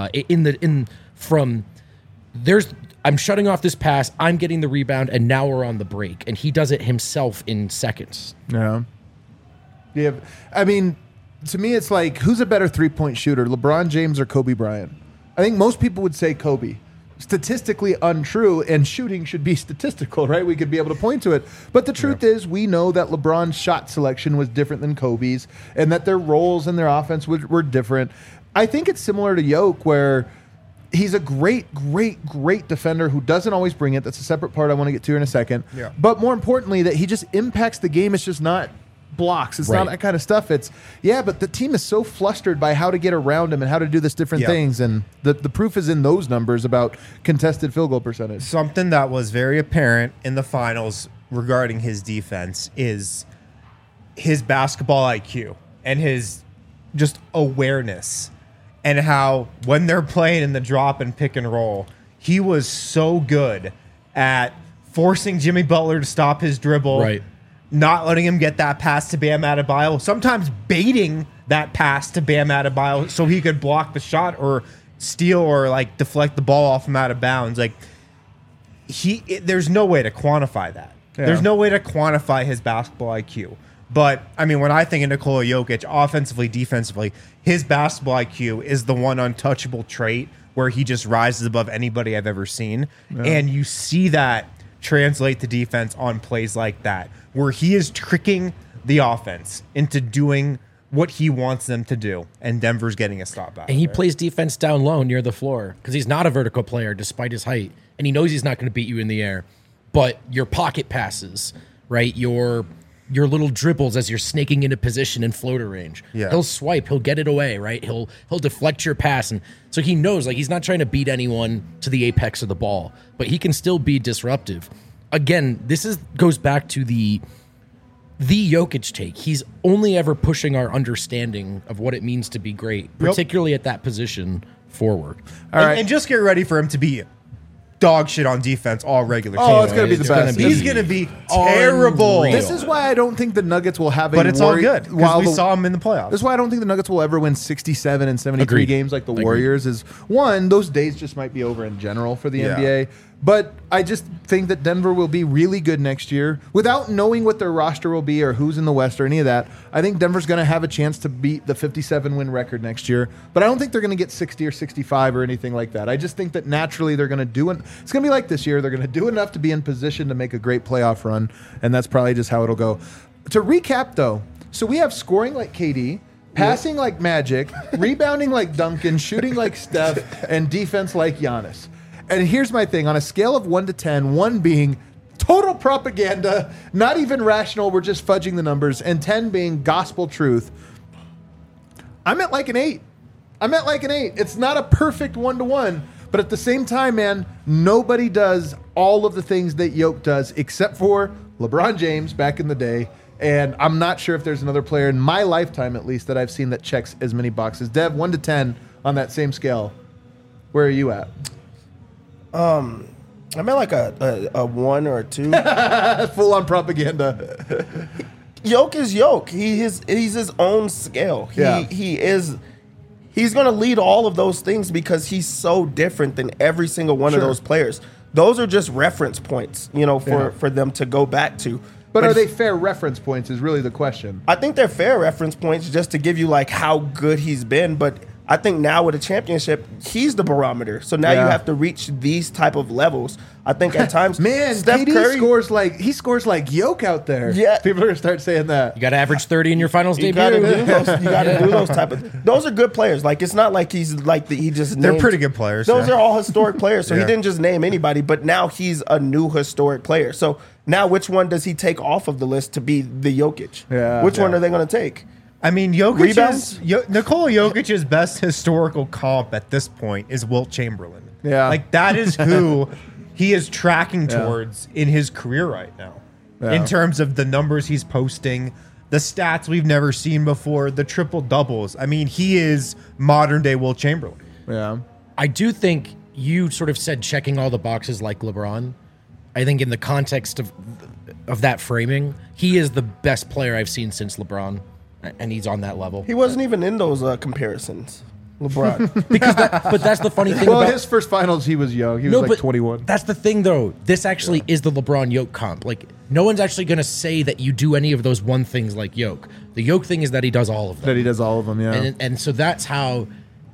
I'm shutting off this pass, I'm getting the rebound, and now we're on the break. And he does it himself in seconds. Yeah. Yeah. I mean, to me, it's like, who's a better three-point shooter, LeBron James or Kobe Bryant? I think most people would say Kobe. Statistically untrue, and shooting should be statistical, right? We could be able to point to it. But the truth is, we know that LeBron's shot selection was different than Kobe's, and that their roles in their offense were different. I think it's similar to Yoke, where he's a great defender who doesn't always bring it. That's a separate part I want to get to in a second. Yeah. But more importantly, that he just impacts the game. It's just not blocks. It's not that kind of stuff. But the team is so flustered by how to get around him and how to do this different things. And the proof is in those numbers about contested field goal percentage. Something that was very apparent in the finals regarding his defense is his basketball IQ and his just awareness. And how when they're playing in the drop and pick and roll, he was so good at forcing Jimmy Butler to stop his dribble, not letting him get that pass to Bam Adebayo, sometimes baiting that pass to Bam Adebayo so he could block the shot or steal or like deflect the ball off him out of bounds. Like there's no way to quantify that. Yeah. There's no way to quantify his basketball IQ. But, I mean, when I think of Nikola Jokic, offensively, defensively, his basketball IQ is the one untouchable trait where he just rises above anybody I've ever seen. Yeah. And you see that translate to defense on plays like that, where he is tricking the offense into doing what he wants them to do, and Denver's getting a stop back. And he there. plays defense down low near the floor because he's not a vertical player despite his height. And he knows he's not going to beat you in the air. But your pocket passes, right? Your little dribbles as you're snaking into position in floater range. Yeah. He'll swipe, he'll get it away, right? He'll deflect your pass. And so he knows, like, he's not trying to beat anyone to the apex of the ball, but he can still be disruptive. Again, goes back to the Jokic take. He's only ever pushing our understanding of what it means to be great, particularly at that position forward. All right. And just get ready for him to be dog shit on defense all regular season. Oh, it's going to be the best. He's going to be terrible. unreal. This is why I don't think the Nuggets will have a But it's all worry- good while because we the- saw him in the playoffs. This is why I don't think the Nuggets will ever win 67 and 73 Agreed. games like the Agreed. Warriors. Is one, those days just might be over in general for the Yeah. NBA. But I just think that Denver will be really good next year. Without knowing what their roster will be or who's in the West or any of that, I think Denver's going to have a chance to beat the 57-win record next year. But I don't think they're going to get 60 or 65 or anything like that. I just think that naturally they're going to do it. It's going to be like this year. They're going to do enough to be in position to make a great playoff run, and that's probably just how it'll go. To recap, though, so we have scoring like KD, passing like Magic, rebounding like Duncan, shooting like Steph, and defense like Giannis. And here's my thing. On a scale of 1 to 10, 1 being total propaganda, not even rational, we're just fudging the numbers, and 10 being gospel truth, I'm at like an 8. It's not a perfect 1-to-1, but at the same time, man, nobody does all of the things that Yoke does except for LeBron James back in the day. And I'm not sure if there's another player in my lifetime, at least, that I've seen that checks as many boxes. Dev, 1 to 10 on that same scale. Where are you at? I'm at like a 1 or a 2. Full on propaganda. Yoke is Yoke. He's his own scale. Yeah. He's going to lead all of those things because he's so different than every single one Sure. of those players. Those are just reference points, for them to go back to. But are they fair reference points is really the question. I think they're fair reference points just to give you like how good he's been, but I think now with a championship, he's the barometer. So now Yeah. you have to reach these type of levels. I think at times, Man, Steph KD Curry scores like Yoke out there. Yeah. People are going to start saying that. You got to average 30 in your finals You debut. gotta do those. You gotta do those type of. Those are good players. Like it's not like he's like he just. They're named- pretty good players, Those yeah. are all historic players. So he Yeah. didn't just name anybody, but now he's a new historic player. So now, which one does he take off of the list to be the Jokic? Yeah. Which one Yeah. are they going to take? I mean, Rebounds? Nikola Jokic's best historical comp at this point is Wilt Chamberlain. Yeah. Like that is who he is tracking Yeah. towards in his career right now. Yeah. In terms of the numbers he's posting, the stats we've never seen before, the triple doubles. I mean, he is modern day Wilt Chamberlain. Yeah. I do think you sort of said checking all the boxes like LeBron. I think in the context of that framing, he is the best player I've seen since LeBron, and he's on that level. He wasn't even in those comparisons. LeBron. But that's the funny thing Well, about his first finals, he was young. He was like 21. That's the thing, though. This actually is the LeBron Yoke comp. Like, no one's actually going to say that you do any of those one things like Yoke. The Yoke thing is that he does all of them. That he does all of them, yeah. And so that's how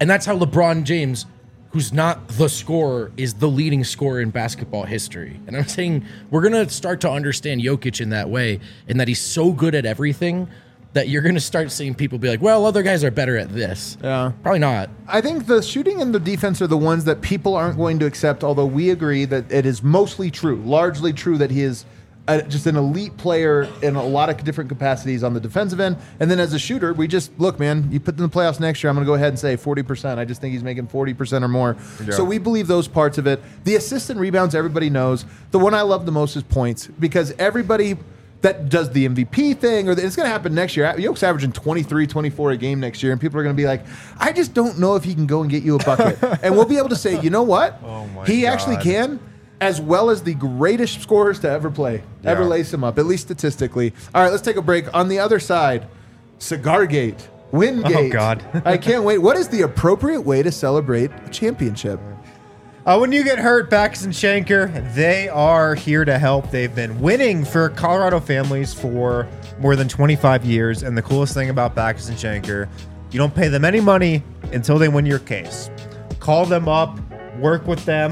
LeBron James, who's not the scorer, is the leading scorer in basketball history. And I'm saying we're going to start to understand Jokic in that way, and that he's so good at everything that you're going to start seeing people be like, well, other guys are better at this. Yeah. Probably not. I think the shooting and the defense are the ones that people aren't going to accept, although we agree that it is mostly true, largely true that he is just an elite player in a lot of different capacities on the defensive end. And then as a shooter, we just, look, man, you put in the playoffs next year, I'm going to go ahead and say 40%. I just think he's making 40% or more. Yeah. So we believe those parts of it. The assists and rebounds, everybody knows. The one I love the most is points, because everybody that does the MVP thing, or it's going to happen next year. Yoke's averaging 23, 24 a game next year, and people are going to be like, I just don't know if he can go and get you a bucket. And we'll be able to say, you know what? Oh my he God. actually can, as well as the greatest scorers to ever play, ever Yeah. lace him up, at least statistically. All right, let's take a break. On the other side, Cigargate, Wingate. Oh, God. I can't wait. What is the appropriate way to celebrate a championship? When you get hurt, Backus and Shanker, they are here to help. They've been winning for Colorado families for more than 25 years. And the coolest thing about Backus and Shanker, you don't pay them any money until they win your case. Call them up, work with them.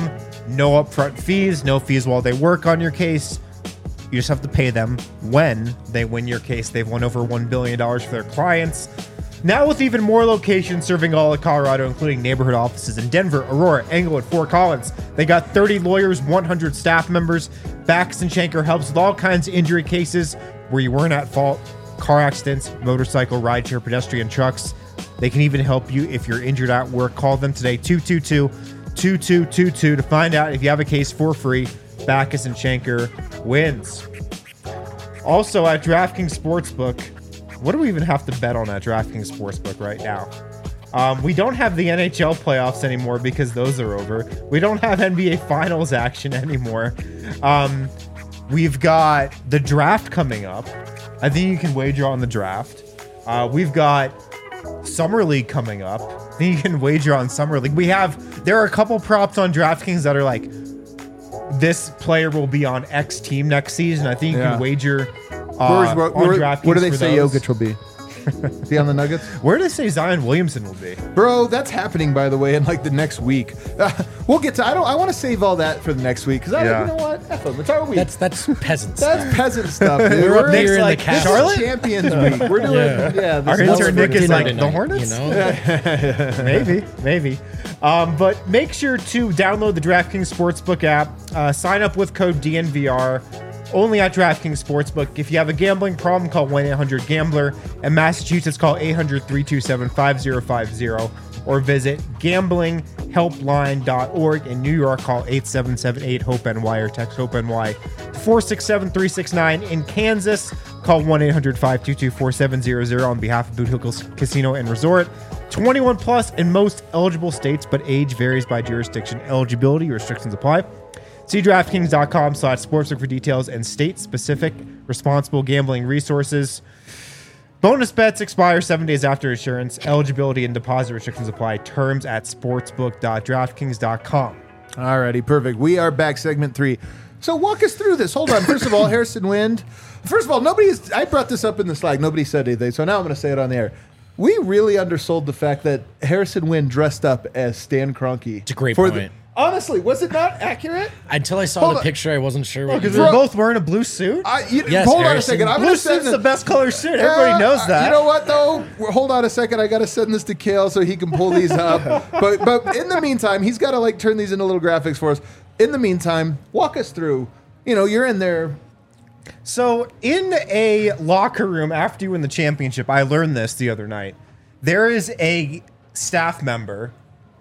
No upfront fees, no fees while they work on your case. You just have to pay them when they win your case. They've won over $1 billion for their clients. Now with even more locations serving all of Colorado, including neighborhood offices in Denver, Aurora, Englewood, Fort Collins. They got 30 lawyers, 100 staff members. Backus and Schenker helps with all kinds of injury cases where you weren't at fault. Car accidents, motorcycle, rideshare, pedestrian, trucks. They can even help you if you're injured at work. Call them today, 222-2222 to find out if you have a case for free. Backus and Schenker wins. Also at DraftKings Sportsbook, what do we even have to bet on at DraftKings Sportsbook right now? We don't have the NHL playoffs anymore because those are over. We don't have NBA Finals action anymore. We've got the draft coming up. I think you can wager on the draft. We've got Summer League coming up. I think you can wager on Summer League. There are a couple props on DraftKings that are like, this player will be on X team next season. I think you can wager on DraftKings. Where do they for say those. Jokic will be? Is he on the Nuggets? Where do they say Zion Williamson will be? Bro, that's happening, by the way, in like the next week. We'll get to. I want to save all that for the next week because you know what? F them. It's our week. That's peasant That's stuff. peasant stuff, dude. We're up here in like the This is Charlotte. Champions Week. We're doing Our this intern Nick is like, the Hornets? You know? Maybe. But make sure to download the DraftKings Sportsbook app. Sign up with code DNVR. Only at DraftKings Sportsbook. If you have a gambling problem, call 1-800-GAMBLER. In Massachusetts, call 800-327-5050. Or visit gamblinghelpline.org. In New York, call 877-8-HOPE-NY or text HOPE-NY to 467-369. In Kansas, call 1-800-522-4700 on behalf of Boot Hill Casino and Resort. 21 plus in most eligible states, but age varies by jurisdiction. Eligibility restrictions apply. See DraftKings.com/sportsbook for details and state-specific responsible gambling resources. Bonus bets expire 7 days after issuance. Eligibility and deposit restrictions apply. Terms at sportsbook.draftkings.com. Alrighty, perfect. We are back, segment 3. So walk us through this. Hold on. First of all, Harrison Wind. First of all, I brought this up in the Slack. Nobody said anything, so now I'm going to say it on the air. We really undersold the fact that Harrison Wind dressed up as Stan Kroenke. It's a great point. Honestly, was it not accurate? Until I saw Hold the on. picture, I wasn't sure what Because you they're meant. both wearing a blue suit. Yes, hold on a Harrison. second. I'm Blue going to send suit's the best color suit. Everybody knows that. You know what, though? Hold on a second. I got to send this to Kale so he can pull these up. But in the meantime, he's got to turn these into little graphics for us. In the meantime, walk us through. You're in there. So in a locker room after you win the championship, I learned this the other night. There is a staff member.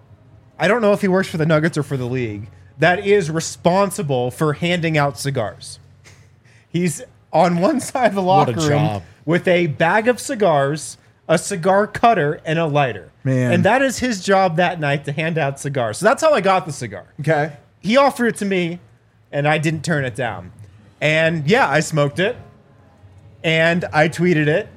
I don't know if he works for the Nuggets or for the league, that is responsible for handing out cigars. He's on one side of the locker room job. with a bag of cigars, a cigar cutter, and a lighter. Man. And that is his job that night, to hand out cigars. So that's how I got the cigar. Okay. He offered it to me, and I didn't turn it down. And yeah, I smoked it, and I tweeted it,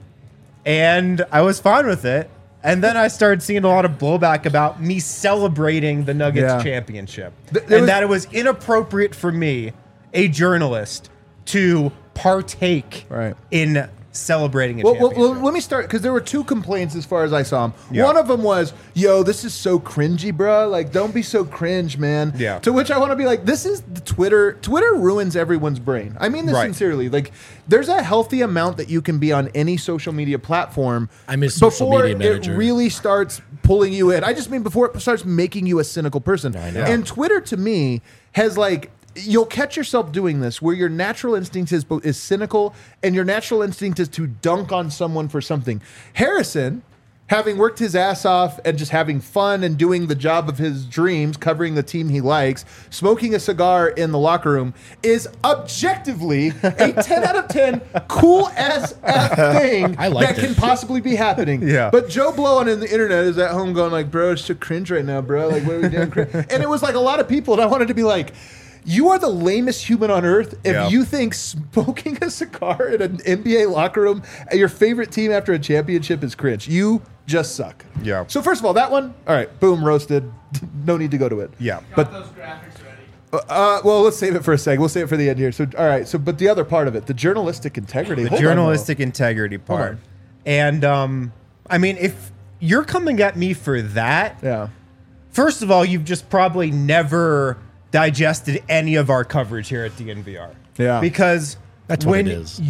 and I was fine with it. And then I started seeing a lot of blowback about me celebrating the Nuggets championship. That it was inappropriate for me, a journalist, to partake in celebrating a championship. Well, let me start, because there were 2 complaints as far as I saw them. Yeah. One of them was, yo, this is so cringy, bro. Don't be so cringe, man. Yeah. To which I want to be like, this is the Twitter. Twitter ruins everyone's brain. I mean this sincerely. There's a healthy amount that you can be on any social media platform. I'm his social media before manager. it really starts pulling you in. I just mean before it starts making you a cynical person. I know. And Twitter, to me, has you'll catch yourself doing this where your natural instinct is cynical and your natural instinct is to dunk on someone for something. Harrison, having worked his ass off and just having fun and doing the job of his dreams, covering the team he likes, smoking a cigar in the locker room, is objectively a 10 out of 10 cool as F thing I liked that it. can possibly be happening. Yeah. But Joe Blow on the internet is at home going bro, it's so cringe right now, bro. What are we doing? And it was a lot of people, and I wanted to be you are the lamest human on earth if you think smoking a cigar in an NBA locker room at your favorite team after a championship is cringe. You just suck. Yeah. So first of all, that one, all right, boom, roasted. No need to go to it. Yeah. But Those graphics ready. well, let's save it for a second. We'll save it for the end here. So all right. But the other part of it, the journalistic integrity. The Hold on, journalistic integrity part. on. And I mean, if you're coming at me for that, yeah. first of all, you've just probably never digested any of our coverage here at DNVR. Yeah. Because That's what when it is.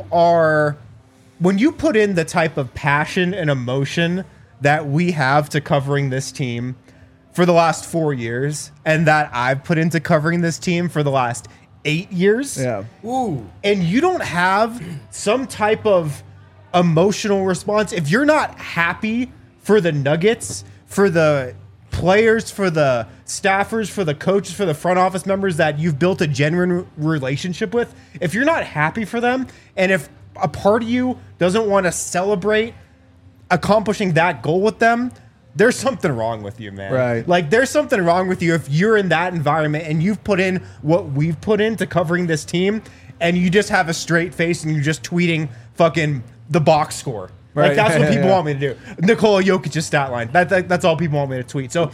when you put in the type of passion and emotion that we have to covering this team for the last 4 years, and that I've put into covering this team for the last 8 years, and you don't have some type of emotional response, if you're not happy for the Nuggets, for the players, for the staffers, for the coaches, for the front office members that you've built a genuine relationship with, if you're not happy for them, and if a part of you doesn't want to celebrate accomplishing that goal with them, there's something wrong with you, man. Right. Like, there's something wrong with you if you're in that environment and you've put in what we've put into covering this team, and you just have a straight face and you're just tweeting fucking the box score. Right. Like, that's what people want me to do. Nikola Jokic's stat line. That's all people want me to tweet. So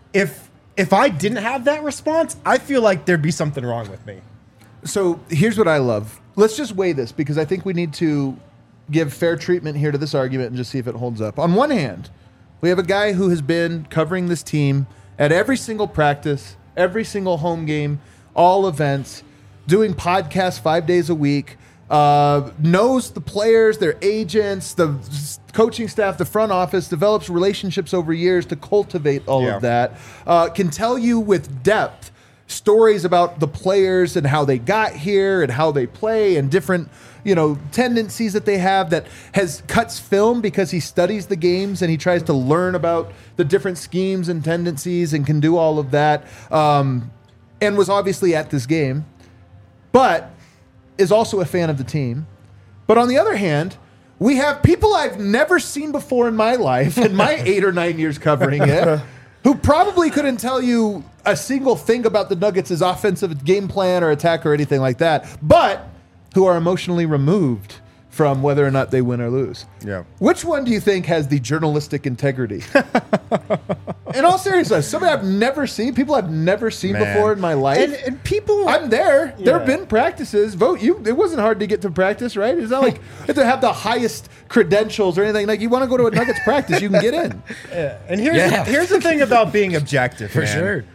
if I didn't have that response, I feel like there'd be something wrong with me. So here's what I love. Let's just weigh this, because I think we need to give fair treatment here to this argument and just see if it holds up. On one hand, we have a guy who has been covering this team at every single practice, every single home game, all events, doing podcasts 5 days a week, knows the players, their agents, the coaching staff, the front office, develops relationships over years to cultivate all of that, can tell you with depth stories about the players and how they got here and how they play and different, tendencies that they have, that cuts film because he studies the games and he tries to learn about the different schemes and tendencies and can do all of that, and was obviously at this game, but is also a fan of the team. But on the other hand, we have people I've never seen before in my life, in my 8 or 9 years covering it, who probably couldn't tell you a single thing about the Nuggets' offensive game plan or attack or anything like that, but who are emotionally removed from whether or not they win or lose. Yeah. Which one do you think has the journalistic integrity? In all seriousness, somebody I've never seen, people I've never seen before in my life. And people... I'm there. There have been practices. It wasn't hard to get to practice, right? It's not like you have to have the highest credentials or anything. Like, you want to go to a Nuggets practice, you can get in. And here's the thing about being objective, For man. sure.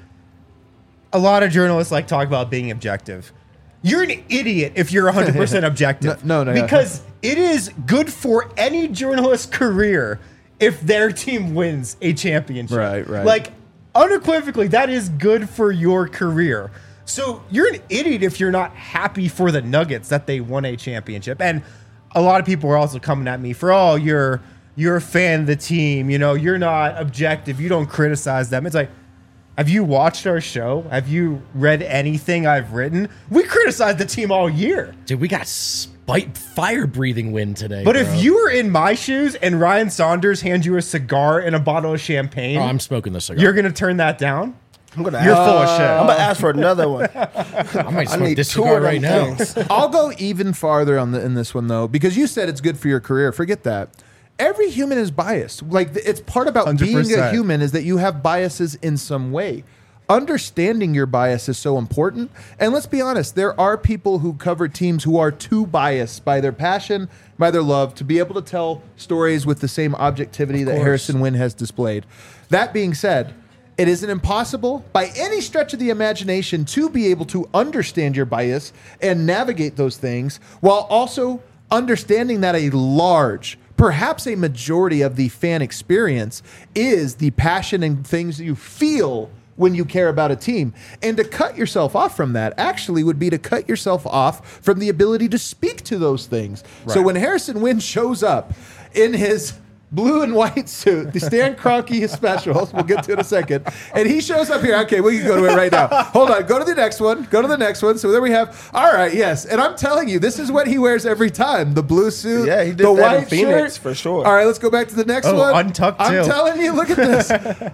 A lot of journalists like talk about being objective. You're an idiot if you're 100% objective. No. Because it is good for any journalist's career if their team wins a championship. Right. Like, unequivocally, that is good for your career. So you're an idiot if you're not happy for the Nuggets that they won a championship. And a lot of people are also coming at me for, you're a fan of the team. You're not objective. You don't criticize them. It's like, have you watched our show? Have you read anything I've written? We criticized the team all year. Dude, we got fire-breathing win today. But bro. if you were in my shoes and Ryan Saunders hands you a cigar and a bottle of champagne, I'm smoking the cigar. you're going to turn that down? You're full of shit. I'm gonna ask for another one. I might smoke need this 2 cigar of right them now. things. I'll go even farther in this one, though, because you said it's good for your career. Forget that. Every human is biased. Like, it's part about being a 100%. human is that you have biases in some way. Understanding your bias is so important. And let's be honest, there are people who cover teams who are too biased by their passion, by their love, to be able to tell stories with the same objectivity that Harrison Wind has displayed. That being said, it isn't impossible by any stretch of the imagination to be able to understand your bias and navigate those things while also understanding that a large, perhaps a majority of the fan experience is the passion and things you feel when you care about a team. And to cut yourself off from that actually would be to cut yourself off from the ability to speak to those things. Right. So when Harrison Wind shows up in his blue and white suit, the Stan Kroenke specials, we'll get to it in a second, and he shows up here. Okay, we can go to it right now. Hold on, go to the next one. So there we have, all right, yes. And I'm telling you, this is what he wears every time. The blue suit, Yeah, he did the that in white Phoenix shirt. for sure. All right, let's go back to the next one. Untucked I'm too. telling you, look at this.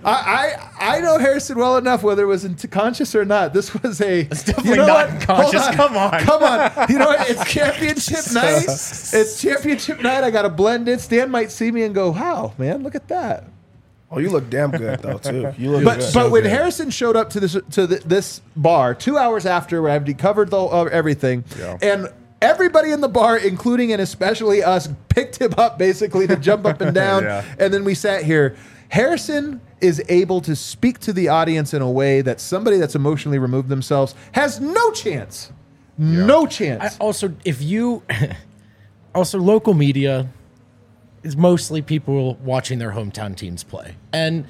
I know Harrison well enough, whether it was conscious or not. This was It's definitely not unconscious. Come on. You know what? It's championship night. It's championship night. I got to blend in. Stan might see me and go, "Wow, man, look at that." Oh, you look damn good though too. You look But good. when Harrison showed up to this bar 2 hours after I had covered everything, and everybody in the bar, including and especially us, picked him up basically to jump up and down, and then we sat here. Harrison is able to speak to the audience in a way that somebody that's emotionally removed themselves has no chance. No chance. Also, if you also local media is mostly people watching their hometown teams play, and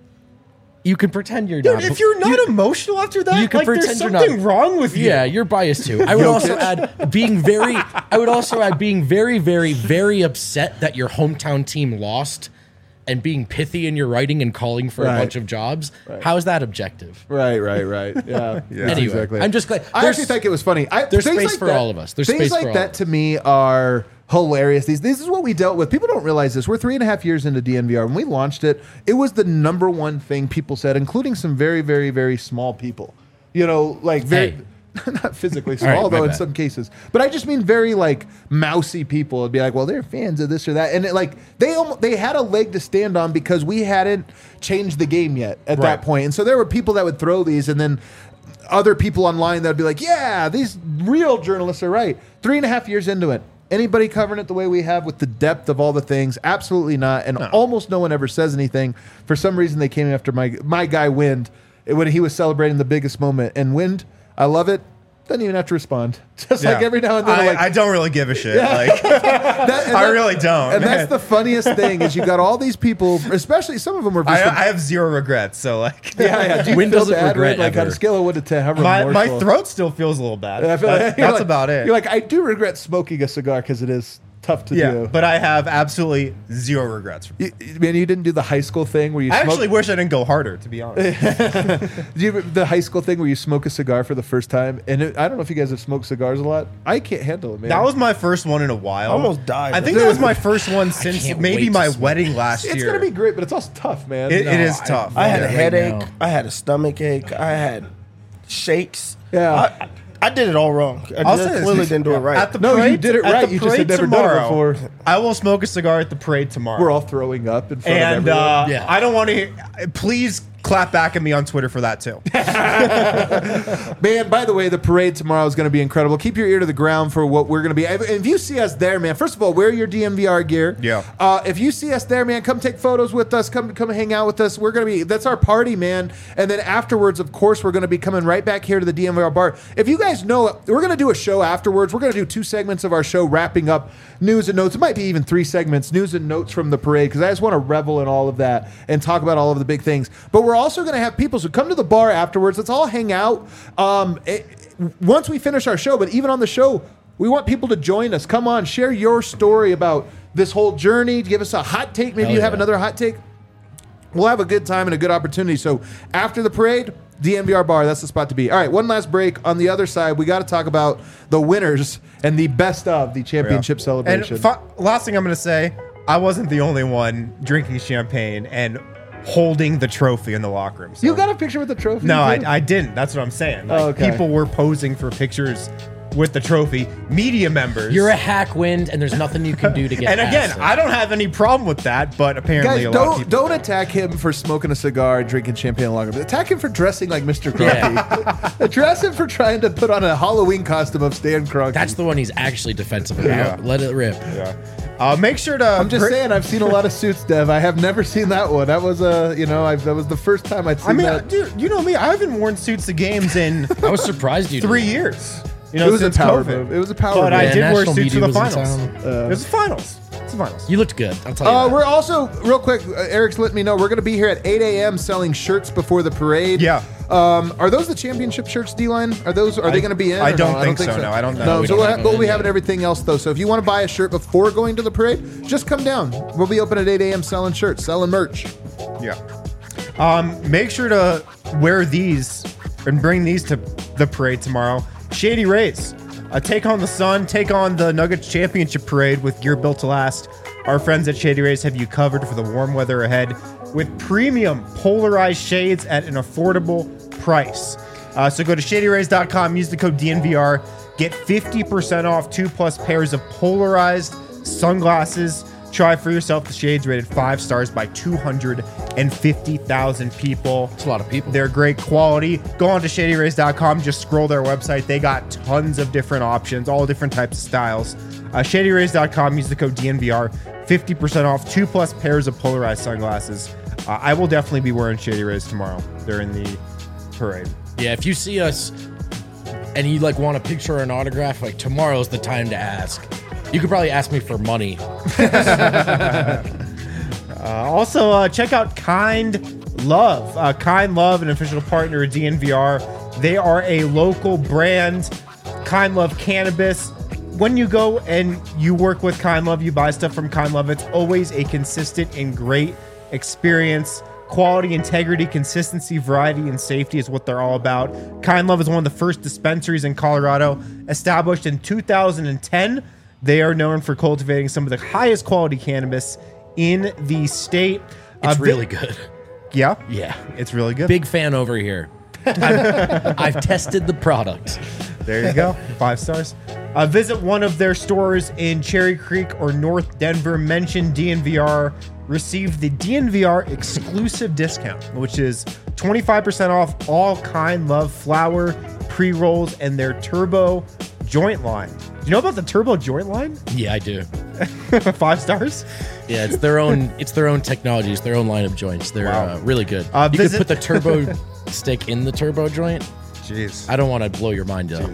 you can pretend you're not. If you're not emotional after that, you can like pretend there's you're something not, wrong with you. Yeah, you're biased too. I would also add being very. I would also add being very, very, very upset that your hometown team lost, and being pithy in your writing and calling for a bunch of jobs. How is that objective? Right. Yeah. Anyway, exactly. I'm just glad. I actually think it was funny. There's things space like for that- all of us. There's things space like for all that of us. to me are hilarious. This is what we dealt with. People don't realize this. We're 3.5 years into DNVR. When we launched it, it was the number one thing people said, including some very, very, very small people. You know, like very. Hey. Not physically All right, small, my though, in bad. some cases. But I just mean very, like, mousy people would be like, well, they're fans of this or that. And, they had a leg to stand on because we hadn't changed the game yet at that point. And so there were people that would throw these, and then other people online that would be like, yeah, these real journalists are right. 3.5 years into it. Anybody covering it the way we have with the depth of all the things? Absolutely not. And almost no one ever says anything. For some reason, they came after my guy, Wind, when he was celebrating the biggest moment. And Wind, I love it. Doesn't even have to respond. Just like every now and then. I don't really give a shit. Like, I really don't. And that's the funniest thing is you got all these people, especially some of them are. I have zero regrets. So like, yeah. Do you Wind feel doesn't bad, regret Wind? Like on ever. a scale of 1 to 10, how my remorseful? throat still feels a little bad. I feel like- That's you're like- about it. You're like, I do regret smoking a cigar because it is tough to yeah, do. but I have absolutely zero regrets. Man, you didn't do the high school thing where you I smoke. actually wish I didn't go harder, to be honest. The high school thing where you smoke a cigar for the first time, and I don't know if you guys have smoked cigars a lot. I can't handle it, man. That was my first one in a while. I almost died. I think that was my first one since can't maybe wait my to smoke. wedding last it's year. gonna be great, but it's also tough, man. It is tough. I had a right headache. now. I had a stomach ache. I had shakes. Yeah. I did it all wrong. I'll say I this, clearly didn't do it right. At the No, you parade, did it at right. the You just had parade never done it tomorrow, before. I will smoke a cigar at the parade tomorrow. We're all throwing up in front and of everyone. Yeah. I don't want to hear. Please clap back at me on Twitter for that too. Man, by the way, the parade tomorrow is going to be incredible. Keep your ear to the ground for what we're going to be. If you see us there, man, first of all, wear your DNVR gear. Yeah. If you see us there, man, come take photos with us. Come hang out with us. We're going to be, that's our party, man. And then afterwards, of course, we're going to be coming right back here to the DNVR bar. If you guys know, we're going to do a show afterwards. We're going to do 2 segments of our show wrapping up news and notes. It might be even 3 segments, news and notes from the parade, because I just want to revel in all of that and talk about all of the big things. But we're also going to have people, so come to the bar afterwards. Let's all hang out. Once we finish our show, but even on the show, we want people to join us. Come on, share your story about this whole journey. Give us a hot take. Maybe Hell you have yeah. another hot take. We'll have a good time and a good opportunity. So after the parade, DNVR bar, that's the spot to be. All right, one last break. On the other side, we got to talk about the winners and the best of the championship celebration. And last thing I'm going to say, I wasn't the only one drinking champagne and holding the trophy in the locker room. So. You got a picture with the trophy? No, too? I didn't. That's what I'm saying. Like, Oh, okay. People were posing for pictures with the trophy. Media members. You're a hack, Wind, and there's nothing you can do to get and again, past it. I don't have any problem with that, but apparently Guys, a lot of people. don't attack him for smoking a cigar and drinking champagne in the locker room. Attack him for dressing like Mr. Cronkey. Address him for trying to put on a Halloween costume of Stan Kroenke. That's the one he's actually defensive about. Yeah. Let it rip. Make sure to. I'm just saying, I've seen a lot of suits, Dev. I have never seen that one. That was that was the first time I'd seen I mean, that. dude, you know me. I haven't worn suits to games in I was surprised you 3 did. years. You know, It was a since power COVID. move. It was a power But move. I Yeah, did wear national suits for the media was in finals. town. It was the finals. It's the finals. You looked good. I'll tell you that. We're also, real quick, Eric's letting me know, we're going to be here at 8 a.m. selling shirts before the parade. Yeah. Are those the championship shirts, D-Line? Are they going to be in? I or don't no? think so. No, I don't know. No, We so don't have we'll them be in having yet. everything else, though. So if you want to buy a shirt before going to the parade, just come down. We'll be open at 8 a.m. selling shirts, selling merch. Yeah. Make sure to wear these and bring these to the parade tomorrow. Shady Rays. Take on the sun, take on the Nuggets Championship Parade with gear built to last. Our friends at Shady Rays have you covered for the warm weather ahead with premium polarized shades at an affordable price. So go to shadyrays.com, use the code DNVR, get 50% off 2+ pairs of polarized sunglasses. Try for yourself the shades rated 5 stars by 250,000 people. It's a lot of people. They're great quality. Go on to shadyrays.com. Just scroll their website. They got tons of different options, all different types of styles. Shadyrays.com. Use the code DNVR. 50% off 2+ pairs of polarized sunglasses. I will definitely be wearing Shady Rays tomorrow during the parade. Yeah, if you see us and you like want a picture or an autograph, like tomorrow's the time to ask. You could probably ask me for money. Also, check out Kind Love. Kind Love, an official partner of DNVR. They are a local brand. Kind Love Cannabis. When you go and you work with Kind Love, you buy stuff from Kind Love, it's always a consistent and great experience. Quality, integrity, consistency, variety, and safety is what they're all about. Kind Love is one of the first dispensaries in Colorado, established in 2010. They are known for cultivating some of the highest quality cannabis in the state. It's really good. Yeah? Yeah. It's really good. Big fan over here. I've tested the product. There you go. 5 stars. Visit one of their stores in Cherry Creek or North Denver. Mention DNVR. Receive the DNVR exclusive discount, which is 25% off all Kind Love flower, pre-rolls, and their Turbo joint line. Do you know about the Turbo joint line? Yeah, I do. 5 stars? Yeah, it's their own technology. It's their own line of joints. They're really good. You could Visit- put the turbo stick in the turbo joint. Jeez. I don't want to blow your mind out.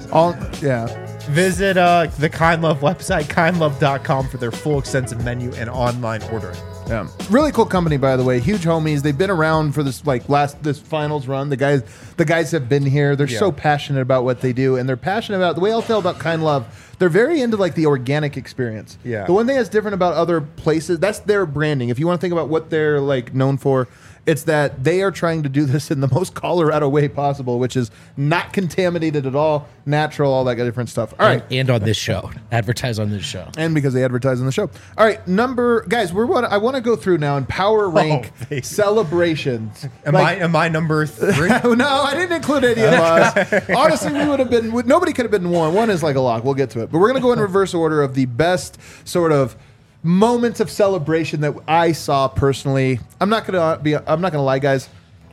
Visit the Kind Love website, kindlove.com, for their full extensive menu and online ordering. Yeah. Really cool company, by the way. Huge homies. They've been around for this this finals run. The guys have been here. They're so passionate about what they do, and they're passionate about the way I'll tell about Kind Love. They're very into like the organic experience. Yeah. The one thing that's different about other places, that's their branding. If you want to think about what they're like known for, it's that they are trying to do this in the most Colorado way possible, which is not contaminated at all, natural, all that different stuff. All right. And on this show. Advertise on this show. And because they advertise on the show. All right, guys, I want to go through now and power rank baby. celebrations. Am I number 3? No, I didn't include any of us. Honestly, we would have been. Nobody could have been one. One is like a lock. We'll get to it, but we're gonna go in reverse order of the best sort of moments of celebration that I saw personally. I'm not gonna lie, guys.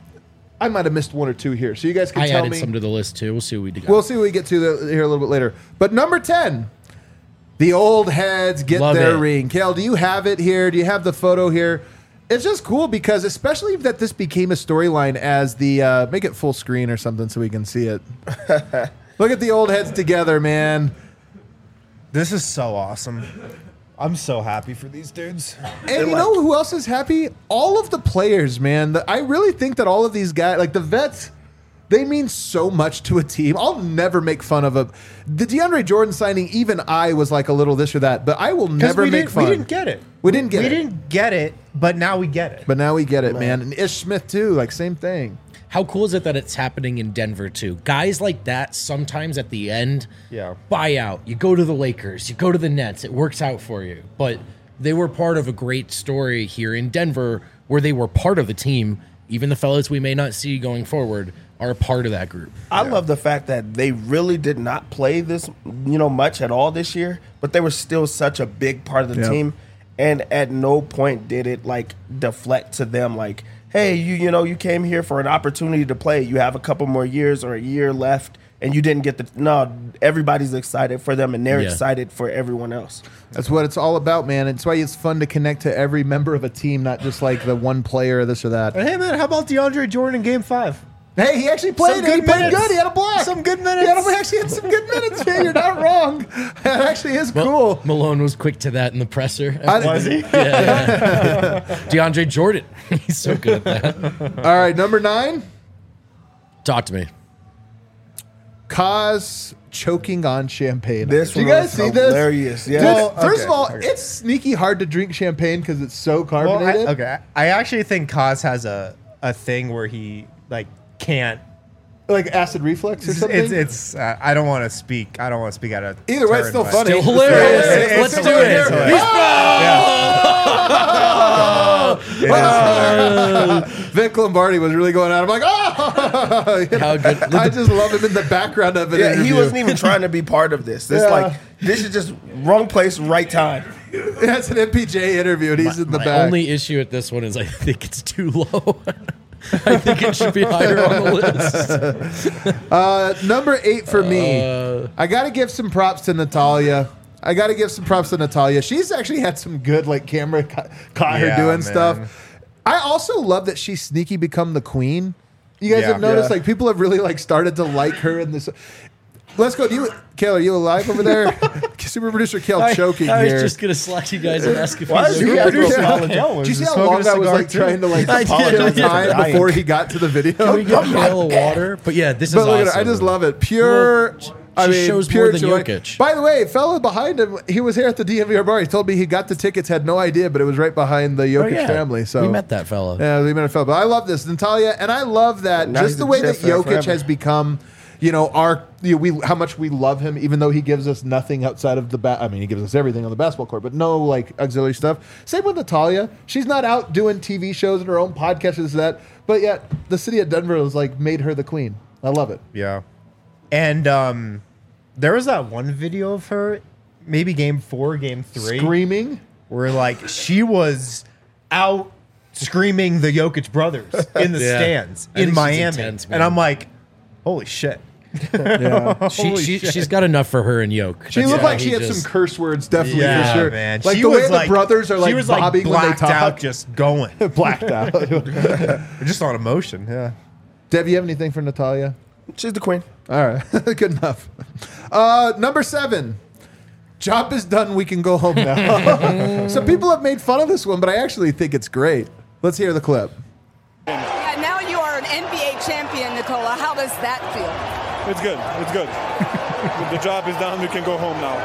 I might have missed one or two here, so you guys can I tell added me. some to the list too. We'll see what we got. We'll see what we get to here a little bit later. But number 10, the old heads get Love their it. ring. Kale, do you have it here? Do you have the photo here? It's just cool because especially that this became a storyline as the make it full screen or something so we can see it. Look at the old heads together, man. This is so awesome. I'm so happy for these dudes. And you know who else is happy? All of the players, man. I really think that all of these guys, like the vets, they mean so much to a team. I'll never make fun of the DeAndre Jordan signing. Even I was like a little this or that, but I will never make fun. We didn't get it. We didn't get it. We didn't get it, but now we get it. But now we get it, man. And Ish Smith too, like same thing. How cool is it that it's happening in Denver too? Guys like that sometimes at the end, buy out. You go to the Lakers, you go to the Nets. It works out for you. But they were part of a great story here in Denver where they were part of the team. Even the fellas we may not see going forward are a part of that group. I love the fact that they really did not play this, much at all this year, but they were still such a big part of the team. And at no point did it like deflect to them like, hey, you came here for an opportunity to play. You have a couple more years or a year left, and you didn't get no, everybody's excited for them, and they're excited for everyone else. That's what it's all about, man. It's why it's fun to connect to every member of a team, not just like the one player or this or that. Hey, man, how about DeAndre Jordan in Game 5? Hey, he actually played. Some And he good played minutes. good. He had a block. Some good minutes. He actually had some good minutes. Man, you're not wrong. That actually is cool. Malone was quick to that in the presser. Was he? Yeah. DeAndre Jordan. He's so good at that. All right, number 9. Talk to me. Kaz choking on champagne. This Did you one guys was see this? hilarious. Dude, Yeah. first of all, it's sneaky hard to drink champagne because it's so Well, carbonated. I actually think Kaz has a thing where he like can't. Like acid reflux or something. It's I don't want to speak. I don't want to speak out of Either way, it's turn, still but- funny. Still hilarious. It's Let's do hilarious. it. It's hilarious. Vic Lombardi was really going out. I'm like, oh! How good. I just love him in the background of it. Yeah, he wasn't even trying to be part of this. This is just wrong place, right time. That's an MPJ interview, and he's in the My back. only issue with this one is I think it's too low. I think it should be higher on the list. Number 8 for me. I got to give some props to Natalia. She's actually had some good like camera caught her Yeah, doing man. stuff. I also love that she's sneaky become the queen. You guys have noticed, like, people have really, like, started to like her in this. Let's go. Kale, are you alive over there? Super producer Kale choking I was here. just gonna slack you guys and ask if Why he's is you okay. guys doing Did you see how long I was like trying to like kill time before he got to the video? Can we get Kale of water? But yeah, this is But look awesome. at it. I just love it. Pure. Well, I she mean, shows pure more than joy. Jokic. By the way, fella behind him, he was here at the DNVR bar. He told me he got the tickets, had no idea, but it was right behind the Jokic yeah. family. So We met that fella. Yeah, we met a fella. But I love this, Natalia, and I love that Now just he's the a way that Jet fan Jokic forever. has become. You know, how much we love him, even though he gives us nothing outside of the I mean, he gives us everything on the basketball court, but no like auxiliary stuff. Same with Natalia. She's not out doing TV shows and her own podcast and that, but yet the city of Denver has like made her the queen. I love it. Yeah. And there was that one video of her, maybe game 4, game 3, Screaming. where like she was out screaming the Jokic brothers in the Yeah. stands I in think she's Miami. intense, man. And I'm like, holy shit. Yeah. She's got enough for her and Yoke. She looked like she had some curse words, definitely Yeah, for sure. man. Like She the way was the brothers are like she was bobbing like when they blacked talk. out, just going. Blacked out. Just on emotion. Yeah. Deb, you have anything for Natalia? She's the queen. All right, good enough. Number 7. Job is done. We can go home now. Some people have made fun of this one, but I actually think it's great. Let's hear the clip. Yeah, now you are an NBA champion, Nikola. How does that feel? It's good. It's good. The job is done. We can go home now.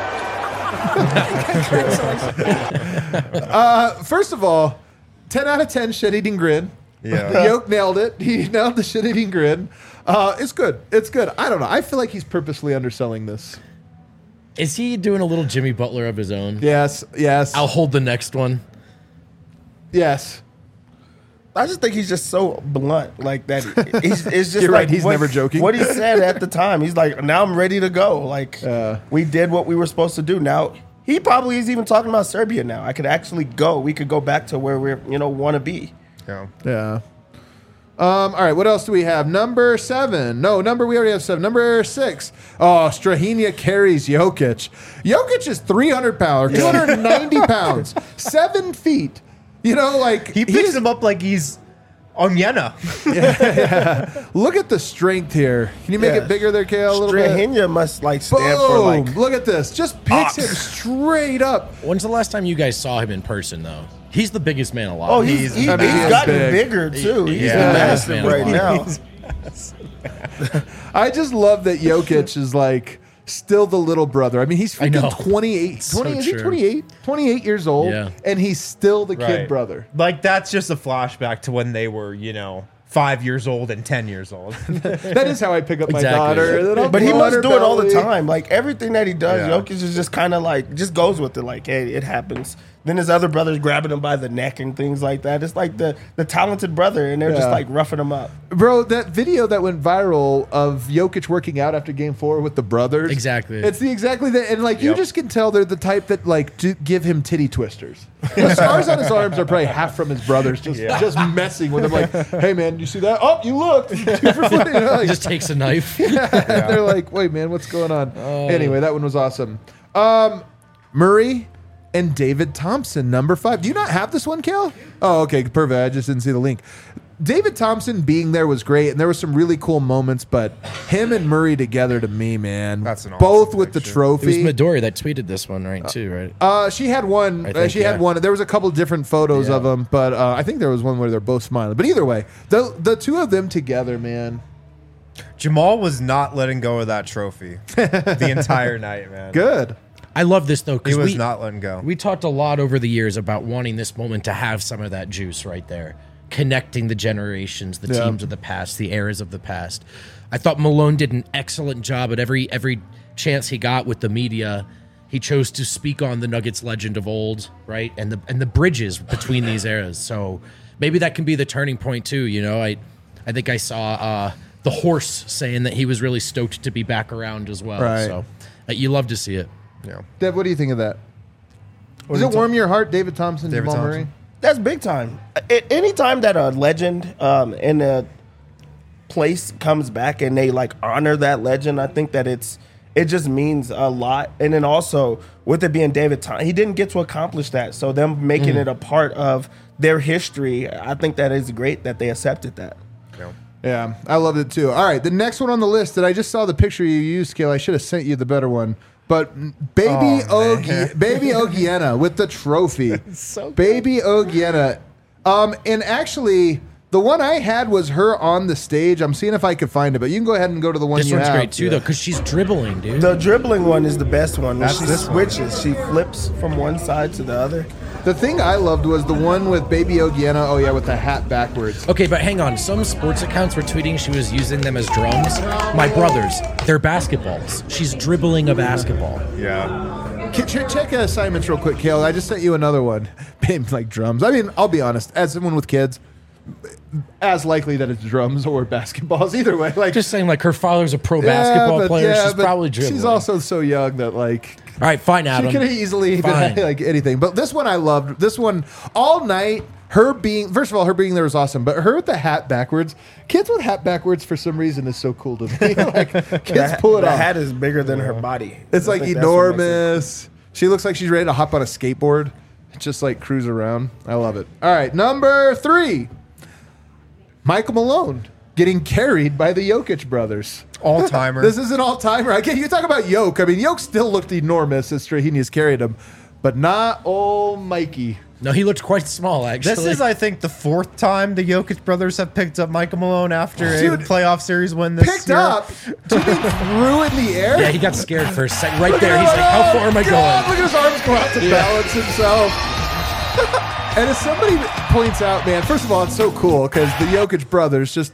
Congratulations. First of all, 10 out of 10 shit-eating grin. Yeah. Yoke nailed it. He nailed the shit-eating grin. It's good. It's good. I don't know. I feel like he's purposely underselling this. Is he doing a little Jimmy Butler of his own? Yes. Yes. I'll hold the next one. Yes. I just think he's just so blunt, like that. It's just You're like right, he's never joking. What he said at the time, he's like, "Now I'm ready to go." Like we did what we were supposed to do. Now he probably is even talking about Serbia. Now I could actually go. We could go back to where we're want to be. Yeah. Yeah. All right, what else do we have? Number 7. No, we already have 7. Number 6. Oh, Strahinja carries Jokic. Jokic is 300 pounds, 290 pounds, 7 feet. You know, like He picks him up like he's Onyena. Look at the strength here. Can you make Yeah. it bigger there, Kale, a little bit? Strahinja must like stand for Boom! like Look at this. Just picks him straight up. When's the last time you guys saw him in person, though? He's the biggest man alive. Oh, he's I mean, he's gotten big. bigger too. He's Yeah. massive Yeah. right now. I just love that Jokic is like still the little brother. I mean, he's I know. freaking 28. So 20, is he true. 28? 28 years old, Yeah. and he's still the kid Right. brother. Like that's just a flashback to when they were, 5 years old and 10 years old. That is how I pick up my Exactly. daughter. and then I'll But he blow on must her do it all the belly. time. Like everything that he does, Yeah. Jokic is just kind of like just goes with it. Like, hey, it happens. Then his other brothers grabbing him by the neck and things like that. It's like the talented brother, and they're just Yeah. like roughing him up. Bro, that video that went viral of Jokic working out after Game 4 with the brothers. Exactly. It's exactly that. And like, you Yep. just can tell they're the type that like to give him titty twisters. The scars on his arms are probably half from his brothers just messing with him. Like, hey man, you see that? Oh, you looked. 2 for 40. He just takes a knife. They're like, wait, man, what's going on? Anyway, that one was awesome. Murray and David Thompson, number 5. Do you not have this one, Kale? Oh, okay, perfect. I just didn't see the link. David Thompson being there was great, and there were some really cool moments, but him and Murray together to me, man. That's an awesome both with the picture. It was trophy. Midori that tweeted this one, right? Too, right? She had one. I think, She had yeah. one. There was a couple different photos of them, but I think there was one where they're both smiling. But either way, the two of them together, man. Jamal was not letting go of that trophy the entire night, man. Good. I love this though He because was not letting go. We talked a lot over the years about wanting this moment to have some of that juice right there, connecting the generations, the Yeah. teams of the past, the eras of the past. I thought Malone did an excellent job at every chance he got with the media. He chose to speak on the Nuggets legend of old, right, and the bridges between these eras. So maybe that can be the turning point too. I think I saw the horse saying that he was really stoked to be back around as well. Right. So you love to see it. Yeah. Deb, what do you think of that? Does it warm your heart, David Thompson, David Jamal Thompson. Murray? That's big time. Anytime that a legend in a place comes back and they like honor that legend, I think that it's it just means a lot. And then also with it being David Thompson, he didn't get to accomplish that. So them making it a part of their history, I think that is great that they accepted that. Yeah, I loved it too. All right, the next one on the list that I just saw the picture you used, Kale. I should have sent you the better one. But baby Ogiena with the trophy. So good. Baby Ogiena. And actually, the one I had was her on the stage. I'm seeing if I could find it, but you can go ahead and go to the one This you one's have. great too, though, because she's dribbling, dude. The dribbling one is the best one. When That's she this one. switches, she flips from one side to the other. The thing I loved was the one with baby Ogiena. Oh yeah, with the hat backwards. Okay, but hang on. Some sports accounts were tweeting she was using them as drums. My brothers, they're basketballs. She's dribbling a basketball. Yeah. Check assignments real quick, Kale. I just sent you another one. Like drums. I mean, I'll be honest. As someone with kids, as likely that it's drums or basketballs. Either way, like Just saying, like, her father's a pro basketball player. She's but probably dribbling. She's also so young that like. All right, fine, Adam. She could have easily Fine. been like anything. But this one I loved. This one all night. Her being, first of all, her being there was awesome. But her with the hat backwards, kids with hat backwards for some reason is so cool to me. Like kids pull it The off. hat is bigger than her body. It's I like think that's what makes it- enormous. She looks like she's ready to hop on a skateboard, just like cruise around. I love it. All right, number 3, Michael Malone getting carried by the Jokic brothers. All timer. This is an all-timer. Again, you talk about Jokic. I mean, Jokic still looked enormous as Strahinja's carried him, but not old Mikey. No, he looked quite small, actually. This is, I think, the 4th time the Jokic brothers have picked up Michael Malone after Dude, a playoff series win this Picked year. up, do you mean threw in the air? Yeah, he got scared for a second. Right Look there, at he's him, like, how far am I God, going? Look at his arms go out to balance himself. And as somebody points out, man, first of all, it's so cool because the Jokic brothers, just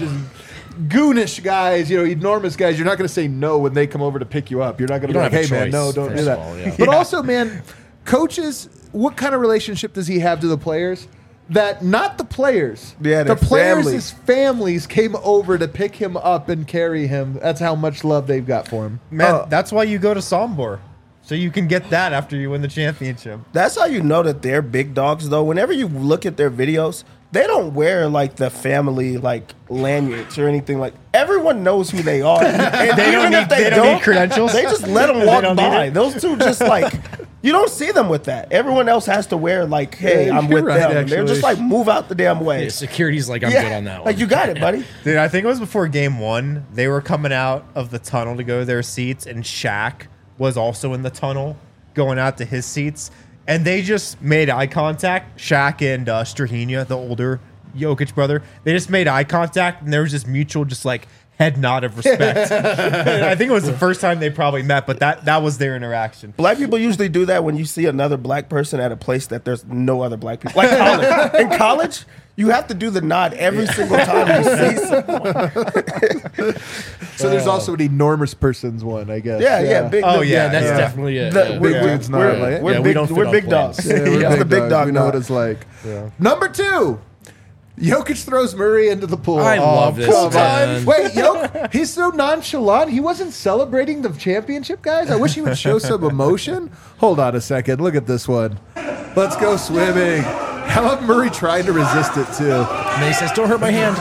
goonish guys, enormous guys. You're not going to say no when they come over to pick you up. You're not going to You be don't like, have a hey, man, choice, no, don't do first that. of all, yeah. But also, man, coaches, what kind of relationship does he have to the players? That not the players. Yeah, the their players' families came over to pick him up and carry him. That's how much love they've got for him. Man, that's why you go to Sombor. So you can get that after you win the championship. That's how you know that they're big dogs, though. Whenever you look at their videos, they don't wear like the family like lanyards or anything. Like everyone knows who they are. And They don't even if need- they don't need credentials? They just let them They walk don't need by. it? Those two just like you don't see them with that. Everyone else has to wear like, hey, Yeah, I'm you're with right, them. They're just actually. like move out the damn way. Yeah, security's like, I'm good on that one. Like you got it, buddy. Dude, I think it was before game 1. They were coming out of the tunnel to go to their seats, and Shaq was also in the tunnel going out to his seats. And they just made eye contact. Shaq and Strahinja, the older Jokic brother, they just made eye contact, and there was this mutual just like head nod of respect. And I think it was the first time they probably met, but that was their interaction. Black people usually do that when you see another black person at a place that there's no other black people. Like college. In college, you have to do the nod every single time you see someone. So there's also an enormous person's one, I guess. Yeah. Big. Oh, yeah, yeah, that's yeah. definitely it. The- yeah. Big dude's not like it. We're Yeah, we big, don't fit we're on big planes. dogs. Yeah, we're That's the big big dogs. dog We know what nod. it's like. Number 2, Jokic throws Murray into the pool. I love this, come on. man. Wait, Jokic, he's so nonchalant. He wasn't celebrating the championship, guys. I wish he would show some emotion. Hold on a second. Look at this one. Let's go swimming. How about Murray trying to resist it, too? And then he says, don't hurt my hand.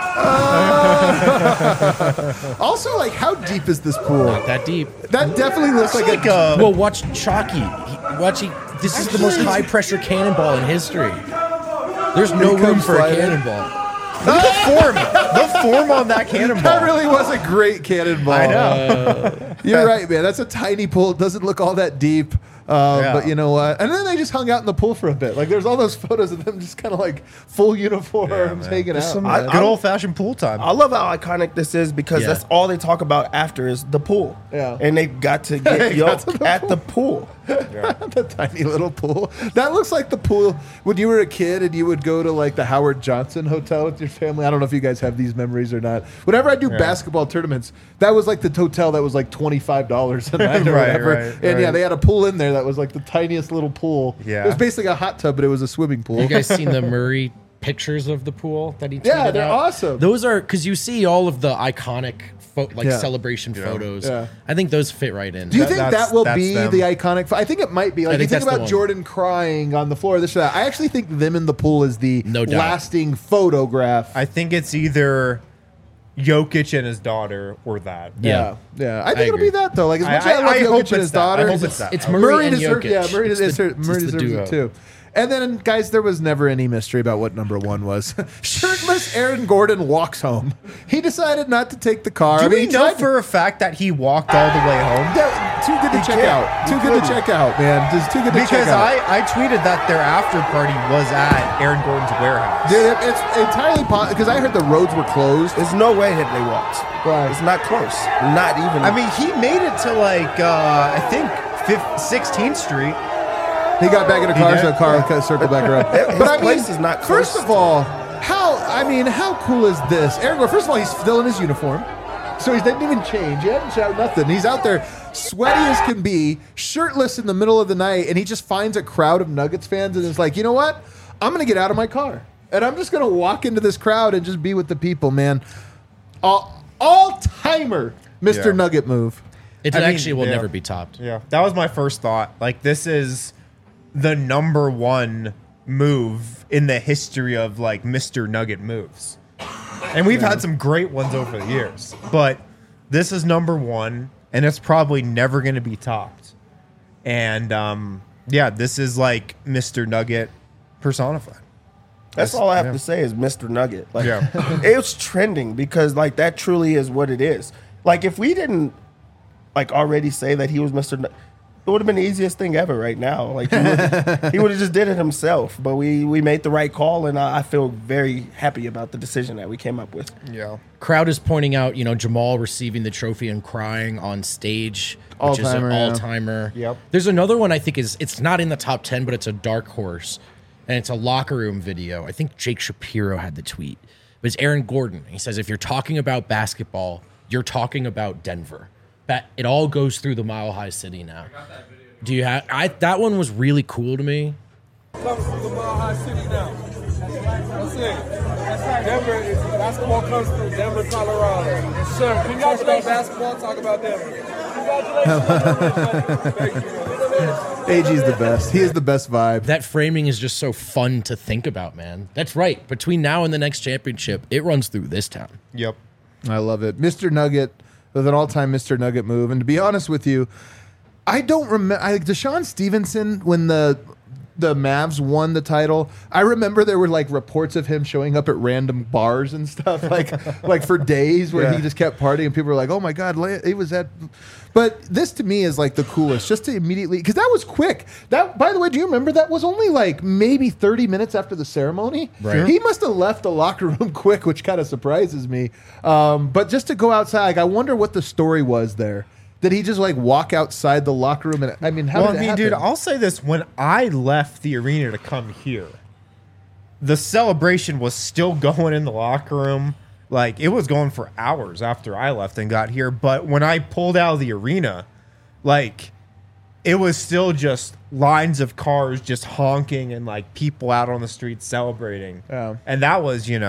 Also, like, how deep is this pool? Not that deep. That definitely looks like a... Well, watch Chalky. This is the most high-pressure cannonball in history. There's no He room comes for a sliding. cannonball. The form on that cannonball. That really was a great cannonball. I know. You're right, man. That's a tiny pool. It doesn't look all that deep. But you know what? And then they just hung out in the pool for a bit. Like, there's all those photos of them just kind of like full uniforms hanging out. Some man. good old-fashioned pool time. I love how iconic this is because Yeah. that's all they talk about after is the pool. Yeah. And they got to get They got to yoked the at the pool. The tiny little pool. That looks like the pool when you were a kid and you would go to like the Howard Johnson Hotel with your family. I don't know if you guys have these memories or not. Whenever I do basketball tournaments, that was like the hotel that was like $25 a night or Right, whatever. right, And yeah, right. they had a pool in there that was like the tiniest little pool. Yeah. It was basically a hot tub, but it was a swimming pool. You guys seen the Murray pictures of the pool that he tweeted Yeah, they're out? awesome. Those are because you see all of the iconic Yeah. celebration photos. Yeah. I think those fit right in. Do you think that's- that will that's be them. the iconic? I think it might be. Like, I think you think that's the about one. Jordan crying on the floor, this or that. I actually think them in the pool is the No doubt. lasting photograph. I think it's either Jokic and his daughter or that. Yeah. I think it'll agree. be that though. Like as much as I love I hope Jokic it's and his that. I daughter, hope it's that. It's Murray and deserves, Jokic. yeah, Murray It's the deserves duo. it too. And then, guys, there was never any mystery about what number one was. Shirtless Aaron Gordon walks home. He decided not to take the car. Do we he know tried to- for a fact that he walked all the way home? Too good to check out. Too good to check out, man. Just too good to check Because out. I tweeted that their after party was at Aaron Gordon's warehouse. Dude, it's entirely possible because I heard the roads were closed. There's no way that they walked. Right. It's not close. Not even. I mean, he made it to like I think 16th Street. He got back in the car, did? so the car circled back around. His But I mean, place is not close. first of all, how cool is this? Aaron Gordon, first of all, he's still in his uniform. So he didn't even change. He hadn't shouted nothing. He's out there sweaty as can be, shirtless in the middle of the night, and he just finds a crowd of Nuggets fans and is like, you know what? I'm going to get out of my car. And I'm just going to walk into this crowd and just be with the people, man. All-timer Mr. Yeah. Nugget move. It I mean, actually will yeah. never be topped. Yeah, that was my first thought. Like, this is the number one move in the history of like Mr. Nugget moves. And we've had some great ones over the years, but this is number one, and it's probably never going to be topped. And yeah, this is like Mr. Nugget personified. That's all I have to say is Mr. Nugget. Like, Yeah. it's trending because like that truly is what it is. Like if we didn't like already say that he was Mr. Nugget, it would have been the easiest thing ever right now. Like he would have just did it himself. But we made the right call, and I feel very happy about the decision that we came up with. Yeah. Crowd is pointing out, Jamal receiving the trophy and crying on stage, which is an All-timer, yeah. all-timer. Yep. There's another one I think it's not in the top 10, but it's a dark horse, and it's a locker room video. I think Jake Shapiro had the tweet. But it's Aaron Gordon. He says, if you're talking about basketball, you're talking about Denver. It all goes through the Mile High City now. Do you have? that one was really cool to me. Comes from the Mile High City now. That's it. Denver is basketball comes from Denver, Colorado. Yes, sir. Congratulations. Basketball, talk about Denver. Congratulations. AG's the best. He is the best vibe. That framing is just so fun to think about, man. That's right. Between now and the next championship, it runs through this town. Yep. I love it. Mr. Nugget with an all-time Mr. Nugget move. And to be honest with you, I don't remember. Deshaun Stevenson, when the Mavs won the title, I remember there were like reports of him showing up at random bars and stuff, like for days where Yeah. he just kept partying. And people were like, "Oh my god, he was at." But this to me is like the coolest, just to immediately, because that was quick. That, by the way, do you remember that was only like maybe 30 minutes after the ceremony? Right. He must have left the locker room quick, which kind of surprises me. But just to go outside, like, I wonder what the story was there. Did he just like walk outside the locker room? And I mean, how did it happen? dude, I'll say this: when I left the arena to come here, the celebration was still going in the locker room. Like, it was going for hours after I left and got here. But when I pulled out of the arena, like, it was still just lines of cars just honking and like people out on the street celebrating. Yeah. And that was, 3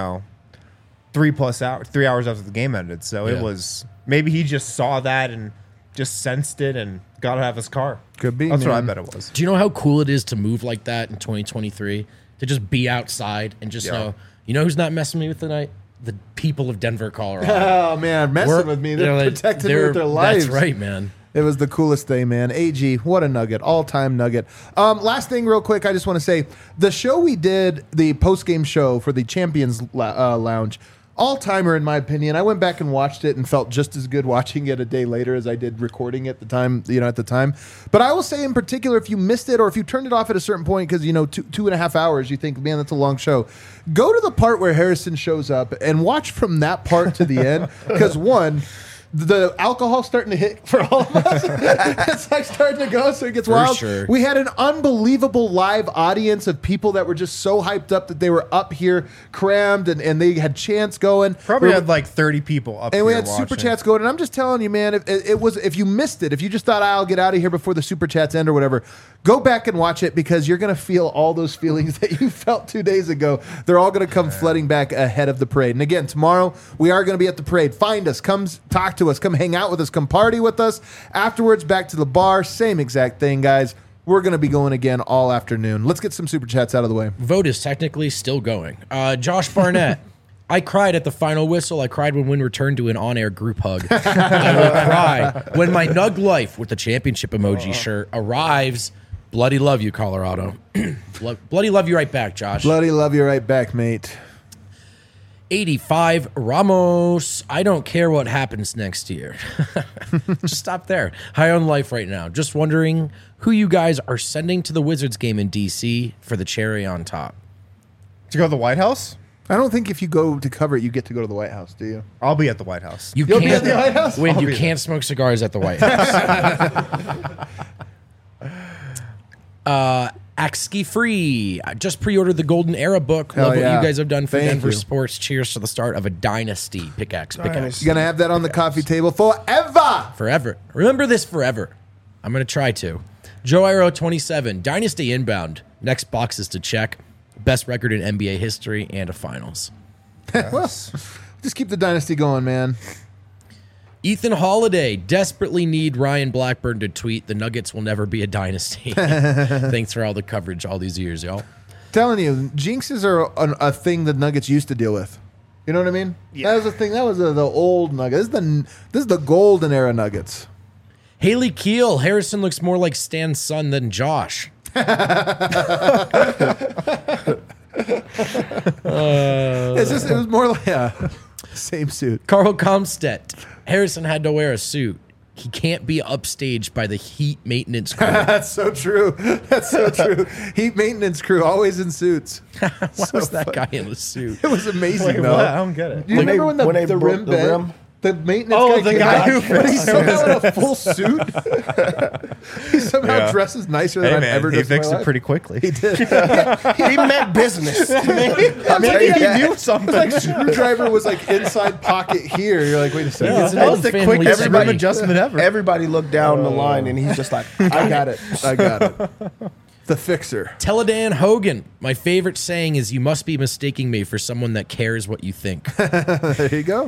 hours after the game ended. So Yeah. it was, maybe he just saw that and just sensed it and got out of his car. Could be, That's what I man. bet it was. Do you know how cool it is to move like that in 2023? To just be outside and just know, who's not messing with me tonight? The people of Denver, Colorado. Oh man, messing with me. They're protecting me with their lives. That's right, man. It was the coolest thing, man. AG, what a nugget. All-time nugget. Last thing real quick, I just want to say, the show we did, the post-game show for the Champions Lounge, all-timer in my opinion. I went back and watched it and felt just as good watching it a day later as I did recording it at the time. But I will say in particular, if you missed it or if you turned it off at a certain point because, 2.5 hours, you think, man, that's a long show. Go to the part where Harrison shows up and watch from that part to the end because, one, the alcohol's starting to hit for all of us. It's like starting to go, so it gets wild. sure. We had an unbelievable live audience of people that were just so hyped up that they were up here crammed and they had chants going. Probably had like 30 people up and here we had watching. super chats going. And I'm just telling you, man, if you missed it, if you just thought I'll get out of here before the super chats end or whatever, go back and watch it because you're going to feel all those feelings that you felt 2 days ago. They're all going to come flooding back ahead of the parade. And again, tomorrow we are going to be at the parade. Find us, come talk to us, come hang out with us, come party with us. Afterwards, back to the bar. Same exact thing, guys. We're going to be going again all afternoon. Let's get some super chats out of the way. Vote is technically still going. Josh Barnett. I cried at the final whistle. I cried when Win returned to an on-air group hug. I will cry when my Nug Life with the championship emoji shirt arrives. Bloody love you, Colorado. Bloody love you right back, Josh. Bloody love you right back, mate. 85 Ramos. I don't care what happens next year. Just stop there. High on life right now. Just wondering who you guys are sending to the Wizards game in DC for the cherry on top. To go to the White House? I don't think if you go to cover it, you get to go to the White House, do you? I'll be at the White House. You'll be at the White House? When I'll you be can't smoke cigars at the White House. Axki Free. I just pre-ordered the Golden Era book. Hell Love what yeah. you guys have done for Thank Denver you. sports. Cheers to the start of a dynasty. Pickaxe. You're going to have that on the coffee table forever. Forever. Remember this forever. I'm going to try to. Joe Iro 27. Dynasty inbound. Next boxes to check. Best record in NBA history and a finals. Well, just keep the dynasty going, man. Ethan Holiday. Desperately need Ryan Blackburn to tweet, the Nuggets will never be a dynasty. Thanks for all the coverage all these years, y'all. Telling you, jinxes are a thing the Nuggets used to deal with. You know what I mean? Yeah. That was the thing. That was the old Nuggets. This is the golden era Nuggets. Haley Keel. Harrison looks more like Stan's son than Josh. It was more like same suit. Carl Comstedt. Harrison had to wear a suit. He can't be upstaged by the heat maintenance crew. That's so true. That's so true. Heat maintenance crew always in suits. Why was that guy in a suit? It was amazing. Wait, though. what? I don't get it. Do you remember when the rim broke the bent? rim? The maintenance Oh, guy the came guy out, who but he's fixed somehow in a full suit. He somehow Yeah. dresses nicer than Hey, I've man, ever he dressed in my fixed it life. pretty quickly. He did. He meant business. Maybe he knew something. Like screwdriver was like inside pocket here. You're like, wait a second. Yeah. That was the Family quickest rim everybody- adjustment ever. Everybody looked down the line, and he's just like, I got it. I got it. The fixer. Teledan Hogan. My favorite saying is, you must be mistaking me for someone that cares what you think. There you go.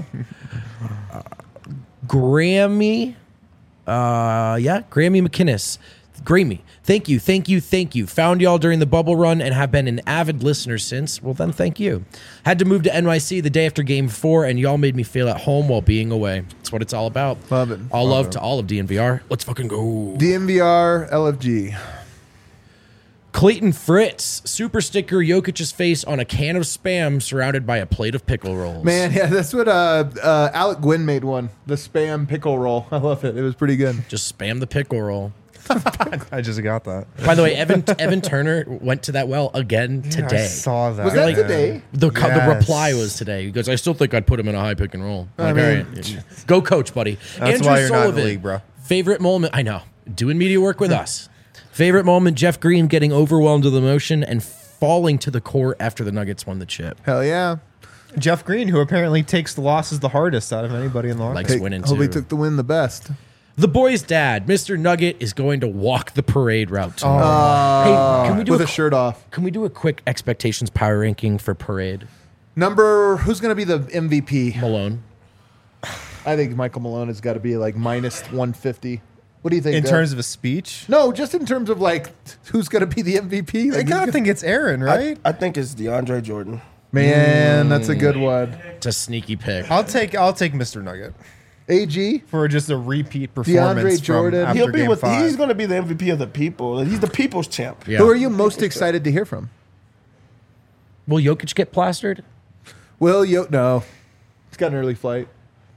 Grammy. Grammy McInnes. Grammy. Thank you. Found y'all during the bubble run and have been an avid listener since. Well, then thank you. Had to move to NYC the day after game 4, and y'all made me feel at home while being away. That's what it's all about. Love it. All love to all of DNVR. Let's fucking go. DNVR LFG. Clayton Fritz. Super sticker Jokic's face on a can of Spam surrounded by a plate of pickle rolls. Man, yeah, that's what Alec Gwynn made one. The Spam pickle roll. I love it. It was pretty good. Just spam the pickle roll. I just got that. By the way, Evan Turner went to that well again today. I saw that. Was that man. today? The Yes. reply was today. He goes, I still think I'd put him in a high pick and roll. I'm like, mean, all right, go coach, buddy. That's Andrew why you're not in the Sullivan, league, bro. Favorite moment, I know, doing media work with us. Favorite moment, Jeff Green getting overwhelmed with emotion and falling to the court after the Nuggets won the chip. Hell yeah. Jeff Green, who apparently takes the losses the hardest out of anybody in the locker. Likes winning Hope he too. took the win the best. The boy's dad, Mr. Nugget, is going to walk the parade route tomorrow. Hey, can we do With a shirt off. Can we do a quick expectations power ranking for parade? Who's going to be the MVP? Malone. I think Michael Malone has got to be like minus 150. What do you think? In Deb? terms of a speech, No, just in terms of like who's going to be the MVP. I Like, gotta think it's Aaron, right? I think it's DeAndre Jordan. man, that's a good one. It's a sneaky pick. I'll take Mr. Nugget AG. for just a repeat performance. Jordan. From after He'll be game with. 5. He's going to be the MVP of the people. He's the people's champ. Yeah. Who are you most excited to hear from? Will Jokic get plastered? No. He's got an early flight.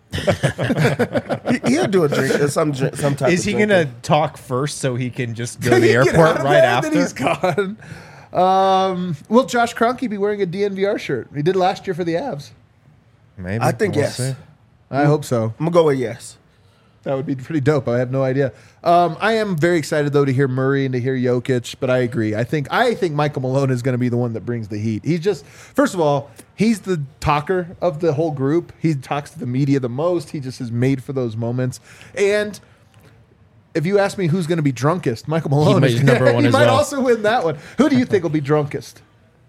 He'll do a drink. Some type. Is of he drinking. gonna talk first so he can just go to Can the he get airport out of right there? after? Then he's gone. Will Josh Kroenke be wearing a DNVR shirt? He did last year for the Avs. Maybe. I think We'll yes. see. I hope so. I'm gonna go with yes. That would be pretty dope. I have no idea. I am very excited though to hear Murray and to hear Jokic, but I agree. I think Michael Malone is going to be the one that brings the heat. He's just, first of all, he's the talker of the whole group. He talks to the media the most. He just is made for those moments. And if you ask me who's going to be drunkest, Michael Malone might is be number one He as might well. also win that one. Who do you think will be drunkest?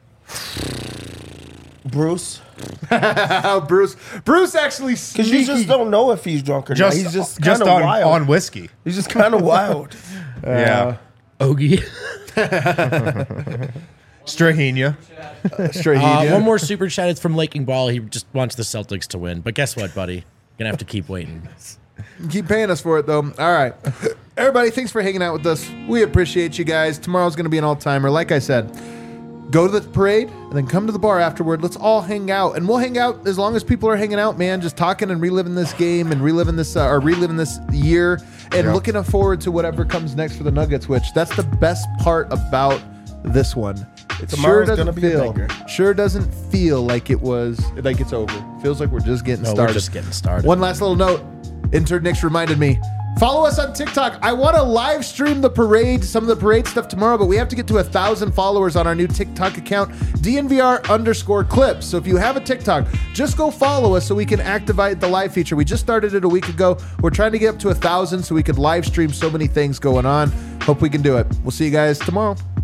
Bruce, Bruce actually because you just don't know if he's drunk or not. He's just kind of on wild. whiskey. He's just kind of wild. Yeah. Ogie. Strahinja. One more super chat. It's from Laking Ball. He just wants the Celtics to win. But guess what, buddy? Gonna have to keep waiting. Keep paying us for it, though. All right. Everybody, thanks for hanging out with us. We appreciate you guys. Tomorrow's going to be an all-timer. Like I said, go to the parade and then come to the bar afterward. Let's all hang out. And we'll hang out as long as people are hanging out, man. Just talking and reliving this game and reliving this year and looking forward to whatever comes next for the Nuggets, which that's the best part about this one. It Tomorrow's gonna be a banger. sure doesn't feel like it's over. It feels like we're just getting started. We're just getting started. One last little note. Intern Nick's reminded me. Follow us on TikTok. I want to live stream the parade, some of the parade stuff tomorrow, but we have to get to 1,000 followers on our new TikTok account, DNVR_clips. So if you have a TikTok, just go follow us so we can activate the live feature. We just started it a week ago. We're trying to get up to 1,000 so we could live stream so many things going on. Hope we can do it. We'll see you guys tomorrow.